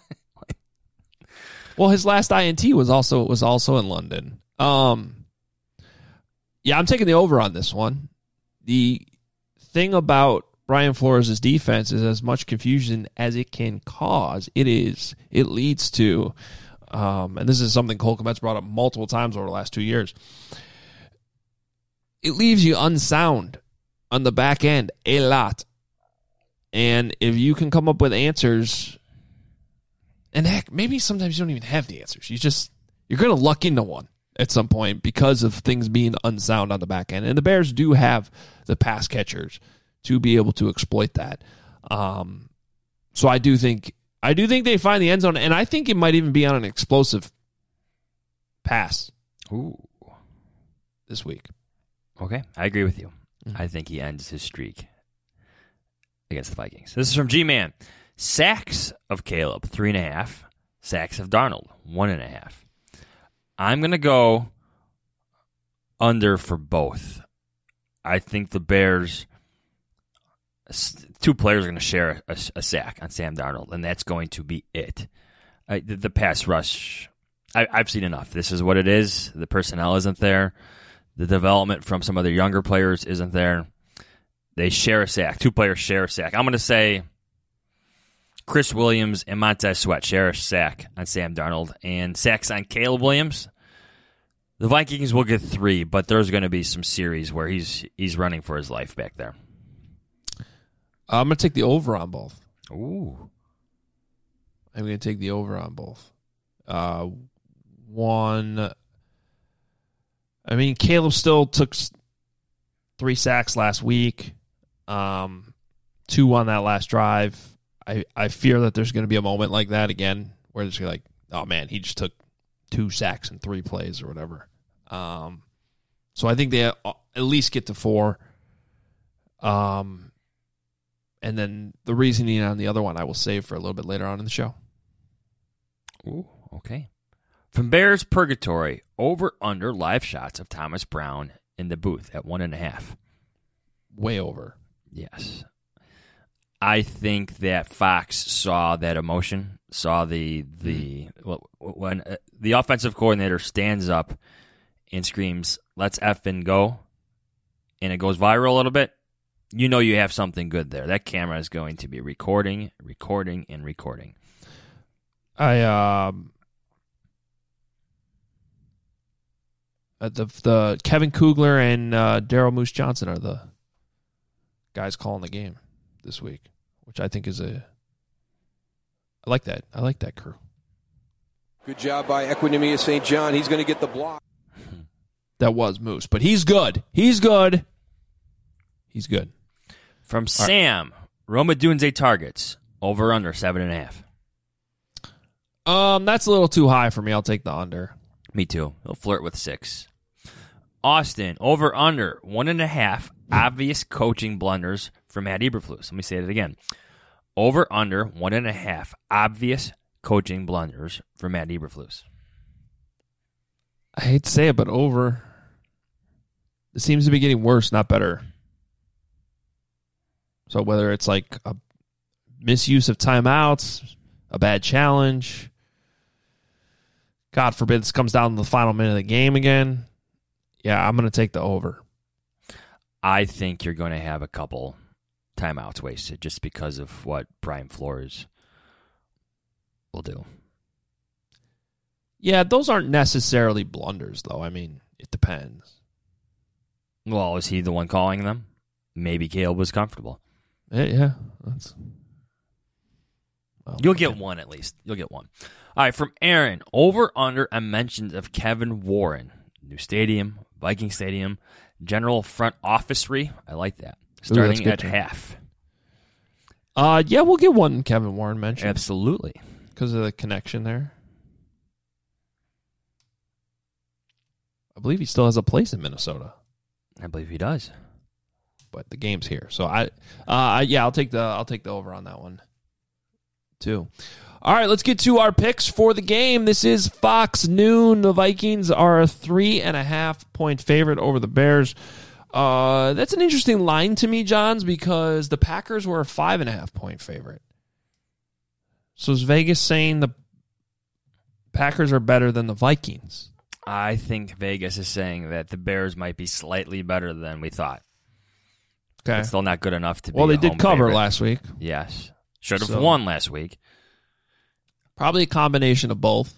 Well, his last INT was also in London. Yeah, I'm taking the over on this one. The thing about Brian Flores' defense is as much confusion as it can cause. It leads to, and this is something Cole Kmet's brought up multiple times over the last 2 years. It leaves you unsound on the back end a lot. And if you can come up with answers, and heck, maybe sometimes you don't even have the answers. You're going to luck into one at some point because of things being unsound on the back end. And the Bears do have the pass catchers to be able to exploit that. So I do think they find the end zone, and I think it might even be on an explosive pass. Ooh. This week. Okay, I agree with you. I think he ends his streak against the Vikings. This is from G-Man. Sacks of Caleb, 3.5. Sacks of Darnold, 1.5. I'm going to go under for both. I think the Bears, 2 players are going to share a sack on Sam Darnold, and that's going to be it. The pass rush, I've seen enough. This is what it is. The personnel isn't there. The development from some of their younger players isn't there. They share a sack. 2 players share a sack. I'm going to say Chris Williams and Montez Sweat share a sack on Sam Darnold, and sacks on Caleb Williams. The Vikings will get 3, but there's going to be some series where he's running for his life back there. I'm going to take the over on both. Ooh. I'm going to take the over on both. Caleb still took 3 sacks last week, 2 on that last drive. I fear that there's going to be a moment like that again where it's like, oh man, he just took 2 sacks in 3 plays or whatever. So I think they at least get to 4. And then the reasoning on the other one I will save for a little bit later on in the show. Ooh, okay. From Bears Purgatory, over-under live shots of Thomas Brown in the booth at 1.5. Way over. Yes. I think that Fox saw that emotion, saw when the offensive coordinator stands up and screams, "Let's effing go," and it goes viral a little bit, you know you have something good there. That camera is going to be recording. The Kevin Kugler and Daryl Moose Johnson are the guys calling the game this week, which I think is I like that. I like that crew. Good job by Equinemius St. John. He's going to get the block. That was Moose, but he's good. He's good. From Sam, Roma Dunze targets, over under 7.5. That's a little too high for me. I'll take the under. Me too. He'll flirt with 6. Austin, over under 1.5 obvious coaching blunders from Matt Eberflus. Let me say it again. Over under 1.5 obvious coaching blunders from Matt Eberflus. I hate to say it, but over. It seems to be getting worse, not better. So whether it's like a misuse of timeouts, a bad challenge, God forbid this comes down to the final minute of the game again. Yeah, I'm going to take the over. I think you're going to have a couple timeouts wasted just because of what Brian Flores will do. Yeah, those aren't necessarily blunders, though. I mean, it depends. Well, is he the one calling them? Maybe Caleb was comfortable. Yeah. You'll get one at least. You'll get one. All right, from Aaron, over under a mention of Kevin Warren. New stadium, Viking Stadium, general front officery. I like that. that's Starting good at too. half. Yeah, we'll get one Kevin Warren mention Absolutely. because of the connection there. I believe he still has a place in Minnesota, I believe he does. but the game's here. So I'll take the over on that one too. All right, let's get to our picks for the game. This is Fox Noon. The Vikings are a 3.5-point favorite over the Bears. That's an interesting line to me, Johns, because the Packers were a 5.5-point favorite. So is Vegas saying the Packers are better than the Vikings? I think Vegas is saying that the Bears might be slightly better than we thought. Okay. But still not good enough to be Well, they a did home cover favorite. last week. Yes. Should have So- won last week. Probably a combination of both.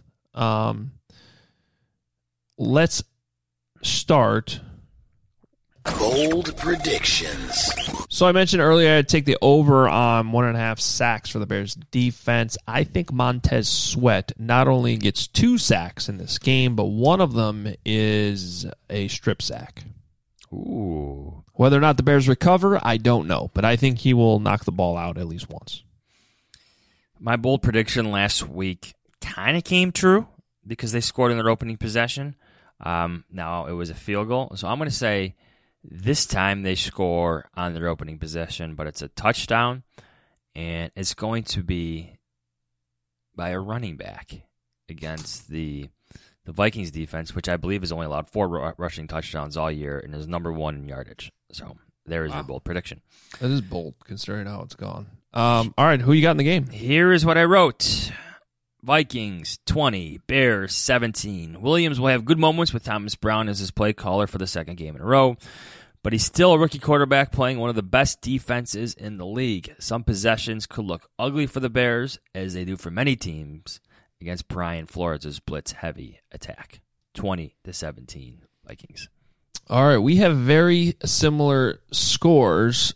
Let's start. Bold predictions. So I mentioned earlier I'd take the over on 1.5 sacks for the Bears defense. I think Montez Sweat not only gets 2 sacks in this game, but one of them is a strip sack. Ooh. Whether or not the Bears recover, I don't know, but I think he will knock the ball out at least once. My bold prediction last week kind of came true because they scored in their opening possession. Now it was a field goal. So I'm going to say this time they score on their opening possession, but it's a touchdown, and it's going to be by a running back against the Vikings defense, which I believe has only allowed 4 rushing touchdowns all year and is number 1 in yardage. So there is your bold prediction. That is bold considering how it's gone. All right, who you got in the game? Here is what I wrote. Vikings 20, Bears 17. Williams will have good moments with Thomas Brown as his play caller for the second game in a row, but he's still a rookie quarterback playing one of the best defenses in the league. Some possessions could look ugly for the Bears, as they do for many teams, against Brian Flores' blitz-heavy attack. 20-17 Vikings. All right, we have very similar scores.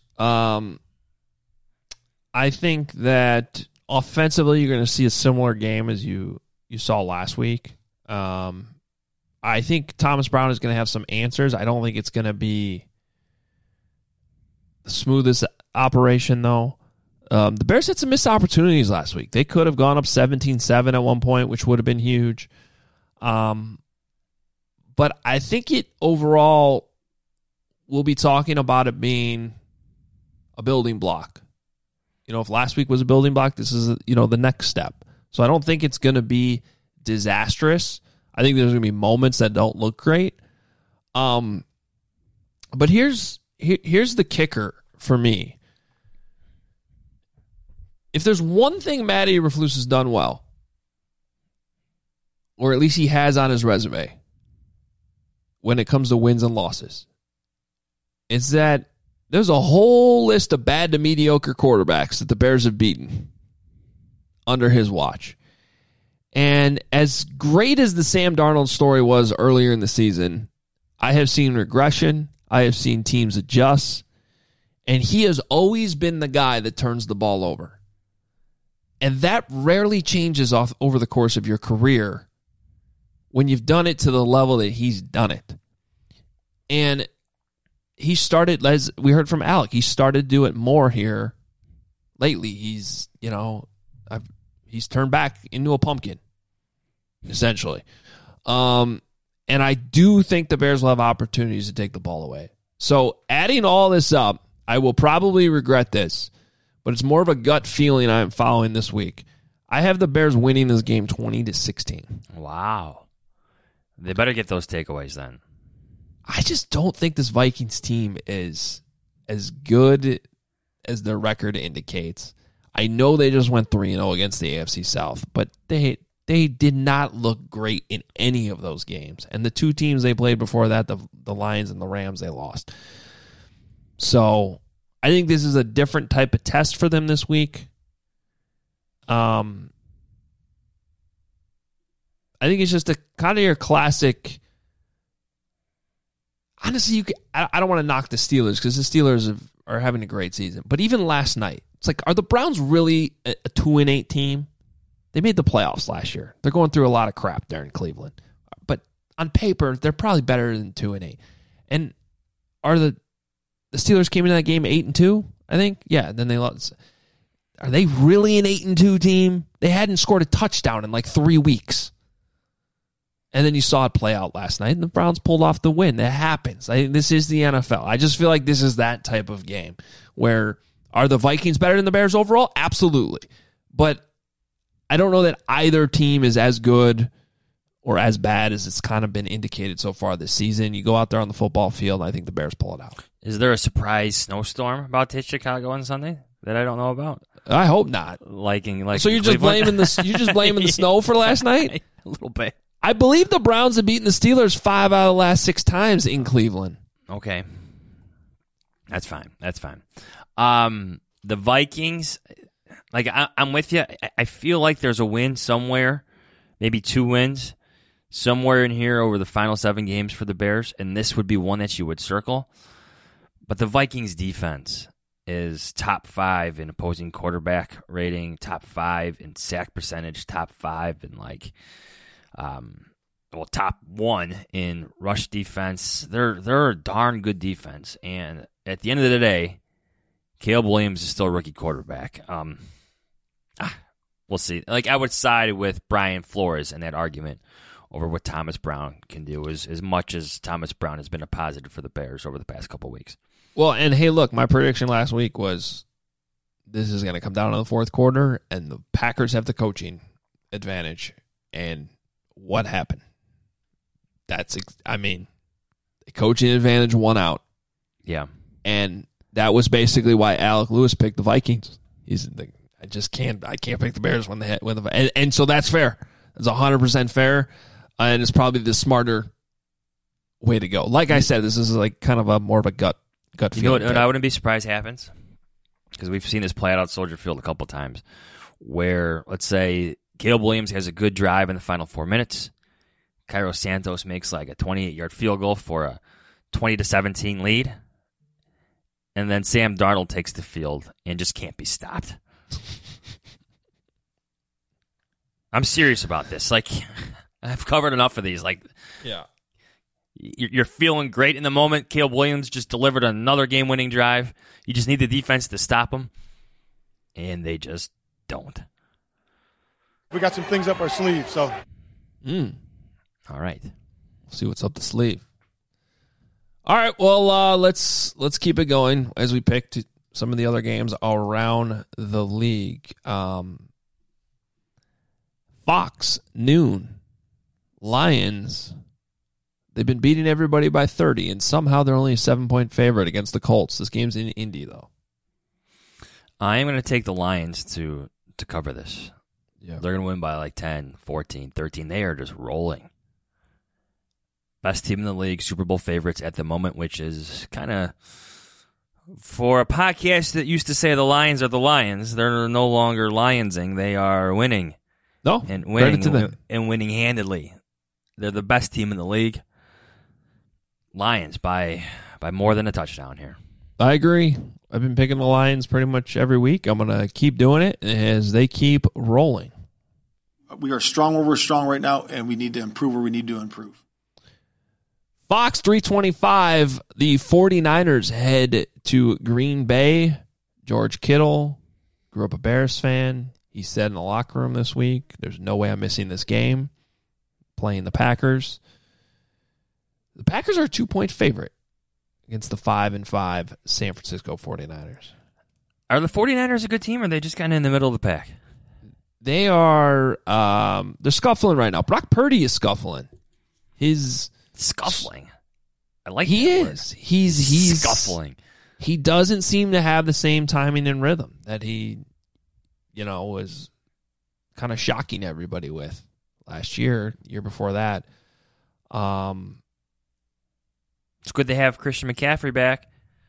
I think that offensively, you're going to see a similar game as you saw last week. I think Thomas Brown is going to have some answers. I don't think it's going to be the smoothest operation, though. The Bears had some missed opportunities last week. They could have gone up 17-7 at one point, which would have been huge. But I think it overall, we'll be talking about it being a building block. You know, if last week was a building block, this is, the next step. So I don't think it's going to be disastrous. I think there's going to be moments that don't look great. But here's the kicker for me. If there's one thing Matty Eberflus has done well, or at least he has on his resume when it comes to wins and losses, it's that there's a whole list of bad to mediocre quarterbacks that the Bears have beaten under his watch. And as great as the Sam Darnold story was earlier in the season, I have seen regression. I have seen teams adjust. And he has always been the guy that turns the ball over. And that rarely changes over the course of your career when you've done it to the level that he's done it. And he started, as we heard from Alec, he started to do it more here lately. He's turned back into a pumpkin, essentially. And I do think the Bears will have opportunities to take the ball away. So adding all this up, I will probably regret this, but it's more of a gut feeling I'm following this week. I have the Bears winning this game 20-16. Wow. They better get those takeaways then. I just don't think this Vikings team is as good as their record indicates. I know they just went 3-0 against the AFC South, but they did not look great in any of those games. And the 2 teams they played before that, the Lions and the Rams, they lost. So I think this is a different type of test for them this week. I think it's just a kind of your classic. Honestly, I don't want to knock the Steelers because the Steelers are having a great season. But even last night, it's like, are the Browns really a 2-8 team? They made the playoffs last year. They're going through a lot of crap there in Cleveland. But on paper, they're probably better than 2-8. And the Steelers came into that game 8-2, I think? Yeah, then they lost. Are they really an 8-2 team? They hadn't scored a touchdown in like 3 weeks. And then you saw it play out last night, and the Browns pulled off the win. That happens. This is the NFL. I just feel like this is that type of game where are the Vikings better than the Bears overall? Absolutely. But I don't know that either team is as good or as bad as it's kind of been indicated so far this season. You go out there on the football field, and I think the Bears pull it out. Is there a surprise snowstorm about to hit Chicago on Sunday that I don't know about? I hope not. So you're just blaming the snow for last night? A little bit. I believe the Browns have beaten the Steelers 5 out of the last 6 times in Cleveland. Okay. That's fine. The Vikings, I'm with you. I feel like there's a win somewhere, maybe 2 wins, somewhere in here over the final 7 games for the Bears, and this would be one that you would circle. But the Vikings defense is top 5 in opposing quarterback rating, top 5 in sack percentage, top 5 in top 1 in rush defense. They're a darn good defense, and at the end of the day, Caleb Williams is still a rookie quarterback. We'll see. I would side with Brian Flores in that argument over what Thomas Brown can do, as much as Thomas Brown has been a positive for the Bears over the past couple of weeks. Well, and hey, look, my prediction last week was this is going to come down to the fourth quarter, and the Packers have the coaching advantage. And what happened? The coaching advantage won out. Yeah. And that was basically why Alec Lewis picked the Vikings. I can't pick the Bears when and so that's fair. It's 100% fair, and it's probably the smarter way to go. Like I said, this is kind of a more of a gut feeling. You know what I wouldn't be surprised happens? Because we've seen this play out at Soldier Field a couple times, where, let's say, Caleb Williams has a good drive in the final 4 minutes. Cairo Santos makes a 28-yard field goal for a 20-17 lead. And then Sam Darnold takes the field and just can't be stopped. I'm serious about this. I've covered enough of these. Yeah. You're feeling great in the moment. Caleb Williams just delivered another game-winning drive. You just need the defense to stop him. And they just don't. We got some things up our sleeve, so. All right. We'll see what's up the sleeve. All right, well, let's keep it going as we pick some of the other games around the league. Fox, noon. Lions, they've been beating everybody by 30, and somehow they're only a 7-point favorite against the Colts. This game's in Indy, though. I am going to take the Lions to cover this. Yeah. They're going to win by 10, 14, 13. They are just rolling. Best team in the league, Super Bowl favorites at the moment, which is kind of, for a podcast that used to say the Lions are the Lions, they're no longer Lionsing. They are winning. No, and credit to them. And winning handedly. They're the best team in the league. Lions by more than a touchdown here. I agree. I've been picking the Lions pretty much every week. I'm going to keep doing it as they keep rolling. We are strong where we're strong right now, and we need to improve where we need to improve. Fox 325, the 49ers head to Green Bay. George Kittle grew up a Bears fan. He said in the locker room this week, there's no way I'm missing this game. Playing the Packers. The Packers are a 2-point favorite against the 5-5 San Francisco 49ers. Are the 49ers a good team, or are they just kind of in the middle of the pack? They are, they're scuffling right now. Brock Purdy is scuffling. Scuffling. I like he that is. Word. He's scuffling. He doesn't seem to have the same timing and rhythm that he, was kind of shocking everybody with last year before that. It's good to have Christian McCaffrey back.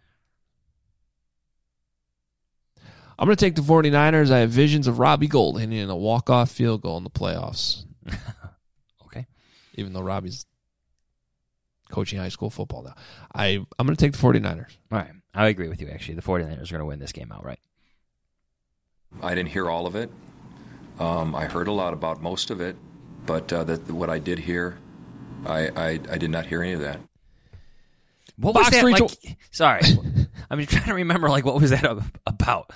I'm going to take the 49ers. I have visions of Robbie Gould hitting a walk-off field goal in the playoffs. Okay. Even though Robbie's coaching high school football now. I'm going to take the 49ers. All right. I agree with you, actually. The 49ers are going to win this game outright. I didn't hear all of it. I heard a lot about most of it, but what I did hear, I did not hear any of that. What was Fox that? 320 Sorry. I'm trying to remember, what was that about?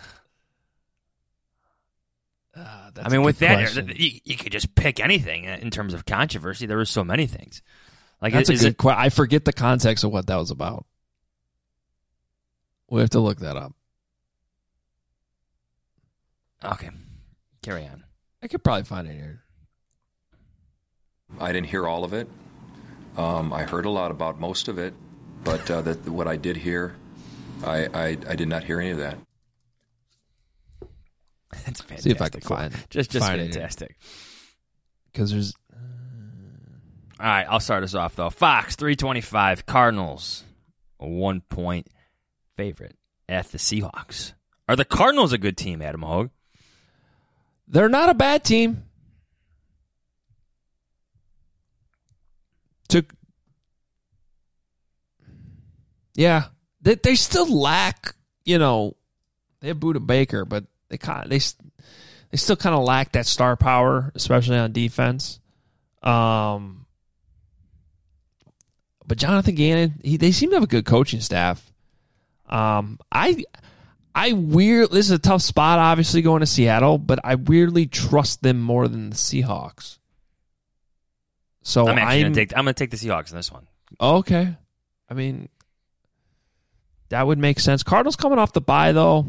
That's a with good that, question. you could just pick anything in terms of controversy. There were so many things. That's a good question. I forget the context of what that was about. We have to look that up. Okay. Carry on. I could probably find it here. I didn't hear all of it. I heard a lot about most of it, but what I did hear, I did not hear any of that. That's fantastic. See if I can find it. Just find fantastic. Because there's... All right, I'll start us off, though. Fox, 325. Cardinals, a 1-point favorite at the Seahawks. Are the Cardinals a good team, Adam Hogue? They're not a bad team. They still lack, they have Budda Baker, but they still kind of lack that star power, especially on defense. But Jonathan Gannon, they seem to have a good coaching staff. This is a tough spot, obviously, going to Seattle, but I weirdly trust them more than the Seahawks. So I'm going to take the Seahawks in this one. Okay. That would make sense. Cardinals coming off the bye, though.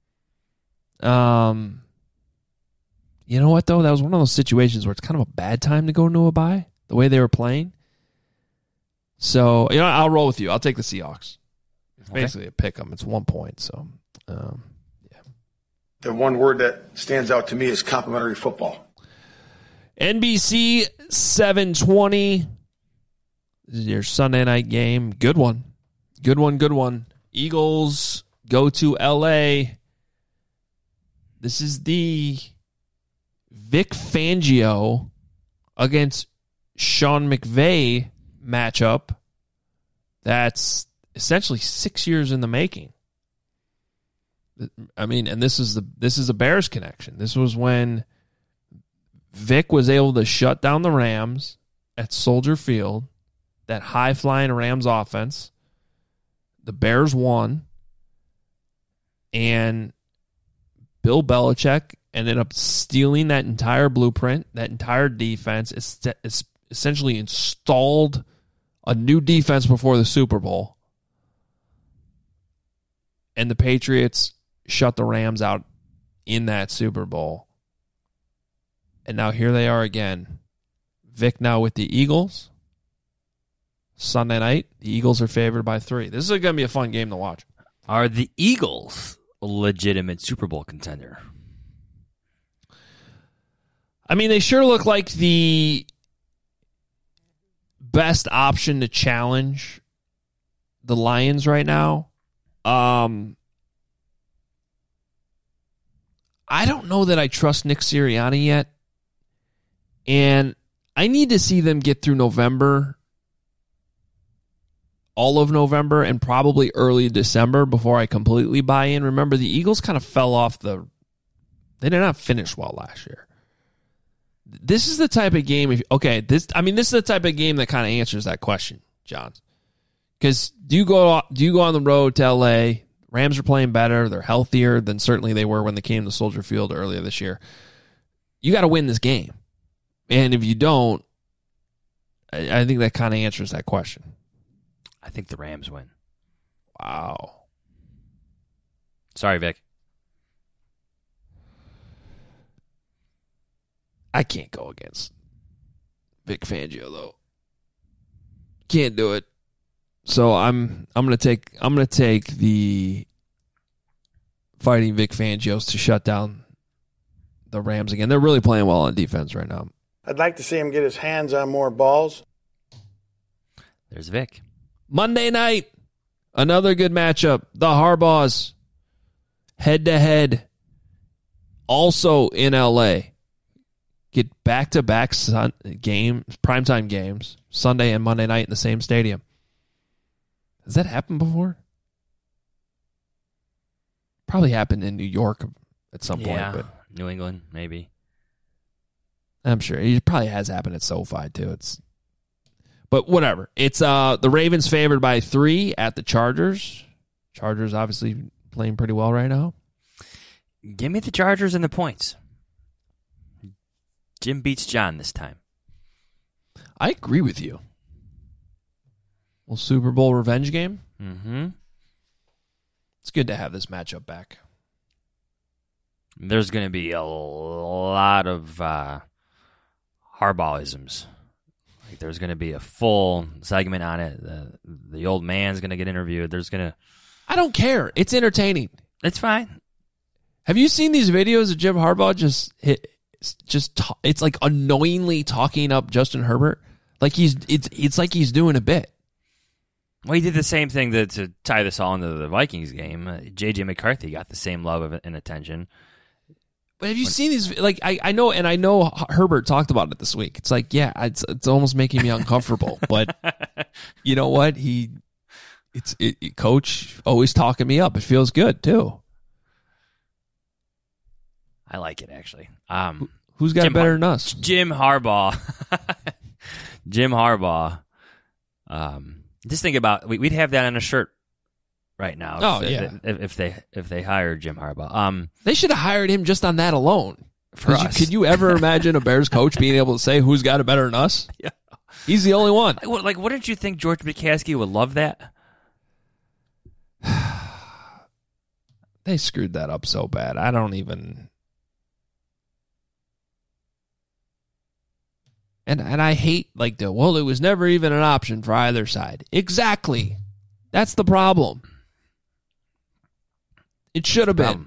You know what, though? That was one of those situations where it's kind of a bad time to go into a bye, the way they were playing. So, I'll roll with you. I'll take the Seahawks. It's basically a pick 'em. It's 1 point, so, yeah. The one word that stands out to me is complimentary football. NBC 720. This is your Sunday night game. Good one. Good one. Eagles go to L.A. This is the Vic Fangio against Sean McVay matchup that's essentially 6 years in the making. And this is a Bears connection. This was when Vic was able to shut down the Rams at Soldier Field, that high-flying Rams offense. The Bears won, and Bill Belichick ended up stealing that entire blueprint, that entire defense. It's essentially installed a new defense before the Super Bowl, and the Patriots shut the Rams out in that Super Bowl. And now here they are again. Vic now with the Eagles. Sunday night, the Eagles are favored by 3. This is going to be a fun game to watch. Are the Eagles a legitimate Super Bowl contender? They sure look like the best option to challenge the Lions right now. I don't know that I trust Nick Sirianni yet. And I need to see them get through November, all of November, and probably early December before I completely buy in. Remember, the Eagles kind of fell off they did not finish well last year. This is the type of game, this is the type of game that kind of answers that question, John. Because do you go on the road to LA? Rams are playing better. They're healthier than certainly they were when they came to Soldier Field earlier this year. You got to win this game. And if you don't, I think that kind of answers that question. I think the Rams win. Wow. Sorry, Vic. I can't go against Vic Fangio though. Can't do it. So I'm gonna take the Fighting Vic Fangios to shut down the Rams again. They're really playing well on defense right now. I'd like to see him get his hands on more balls. There's Vic. Monday night, another good matchup. The Harbaughs head-to-head, also in L.A. Get back-to-back primetime games, Sunday and Monday night in the same stadium. Has that happened before? Probably happened in New York at some point. But New England, maybe. I'm sure. It probably has happened at SoFi, too. But whatever. It's the Ravens favored by 3 at the Chargers. Chargers obviously playing pretty well right now. Give me the Chargers and the points. Jim beats John this time. I agree with you. Well, Super Bowl revenge game. Mm-hmm. It's good to have this matchup back. There's going to be a lot of Harbaugh'isms. Like there's going to be a full segment on it. The old man's going to get interviewed. I don't care. It's entertaining. It's fine. Have you seen these videos of Jim Harbaugh it's like annoyingly talking up Justin Herbert? Like it's like he's doing a bit. Well, he did the same thing to tie this all into the Vikings game. J.J. McCarthy got the same love and attention. But have you seen these? Like I know Herbert talked about it this week. It's like, yeah, it's almost making me uncomfortable. But you know what? Coach always talking me up. It feels good too. I like it actually. Who's got better than us? Jim Harbaugh. Jim Harbaugh. Just think about we'd have that on a shirt right now. If they hired Jim Harbaugh, they should have hired him just on that alone. For us. Could you ever imagine a Bears coach being able to say who's got it better than us? Yeah, he's the only one. Like, wouldn't you think George McCaskey would love that? They screwed that up so bad. I don't even. And I hate it was never even an option for either side. Exactly. That's the problem. It should have been.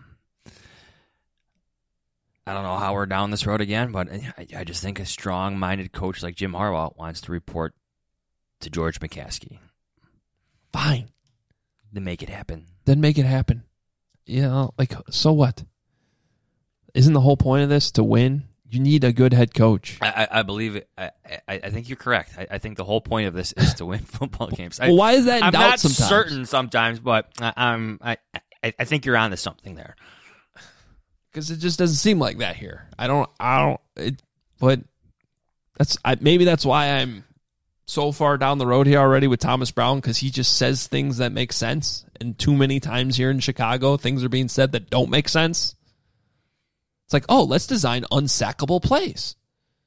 I don't know how we're down this road again, but I just think a strong-minded coach like Jim Harbaugh wants to report to George McCaskey. Fine. Then make it happen. You know, so what? Isn't the whole point of this to win? You need a good head coach. I believe it. I think you're correct. I think the whole point of this is to win football games. Well, why is that in doubt sometimes? I'm not certain sometimes, but I think you're onto something there. Because it just doesn't seem like that here. But maybe that's why I'm so far down the road here already with Thomas Brown, because he just says things that make sense. And too many times here in Chicago, things are being said that don't make sense. It's like, let's design unsackable plays.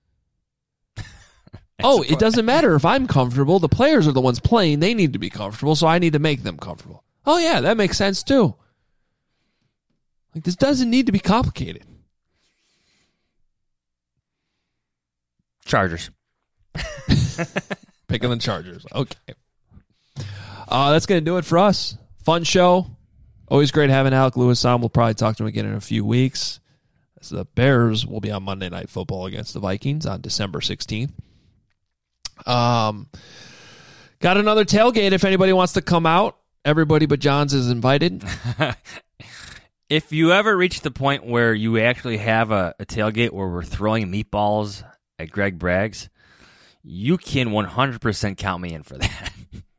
It doesn't matter if I'm comfortable. The players are the ones playing. They need to be comfortable, so I need to make them comfortable. Oh, yeah, that makes sense, too. Like, this doesn't need to be complicated. Chargers. Picking the Chargers. Okay. That's going to do it for us. Fun show. Always great having Alec Lewis on. We'll probably talk to him again in a few weeks. So the Bears will be on Monday Night Football against the Vikings on December 16th. Got another tailgate if anybody wants to come out. Everybody but Johns is invited. If you ever reach the point where you actually have a tailgate where we're throwing meatballs at Greg Bragg's, you can 100% count me in for that.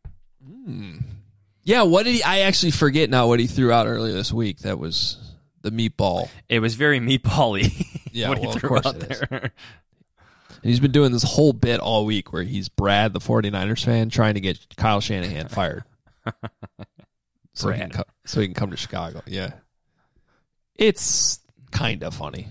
Yeah, what did I actually forget now what he threw out earlier this week. That was the meatball. It was very meatball-y. Yeah, what well, he of threw course out it is. there. And he's been doing this whole bit all week where he's Brad, the 49ers fan, trying to get Kyle Shanahan fired. so he can come to Chicago. Yeah. It's kind of funny.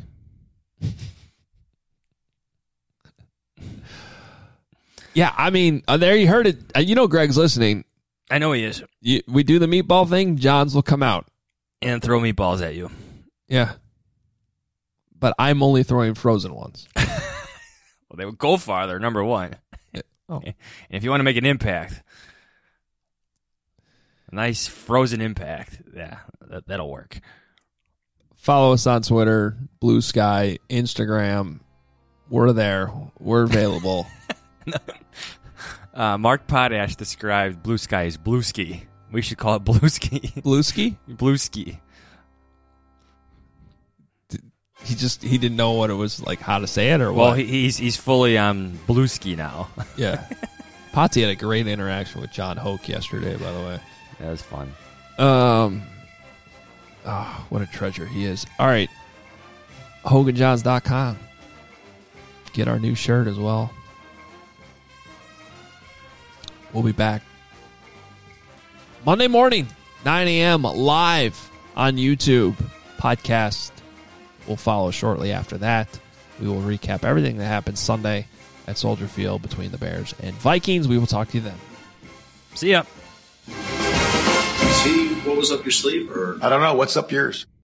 Yeah, I mean, there you heard it. You know Greg's listening. I know he is. We do the meatball thing, Johns will come out. And throw meatballs at you. Yeah. But I'm only throwing frozen ones. Well, they would go farther, number one. Oh. And if you want to make an impact, a nice frozen impact, yeah, that'll work. Follow us on Twitter, Blue Sky, Instagram. We're there. We're available. Mark Potash described Blue Sky as Blue Ski. We should call it Blue Ski. Blue Ski? Blue Ski. He didn't know what it was like, how to say it, or well, what? he's fully on Blue Ski now. Yeah. Potty had a great interaction with John Hoke yesterday, by the way. That was fun. What a treasure he is. All right. HoganJohns.com. Get our new shirt as well. We'll be back Monday morning, 9 a.m. live on YouTube. Podcast will follow shortly after that. We will recap everything that happened Sunday at Soldier Field between the Bears and Vikings. We will talk to you then. See ya. See what was up your sleeve? Or I don't know. What's up yours?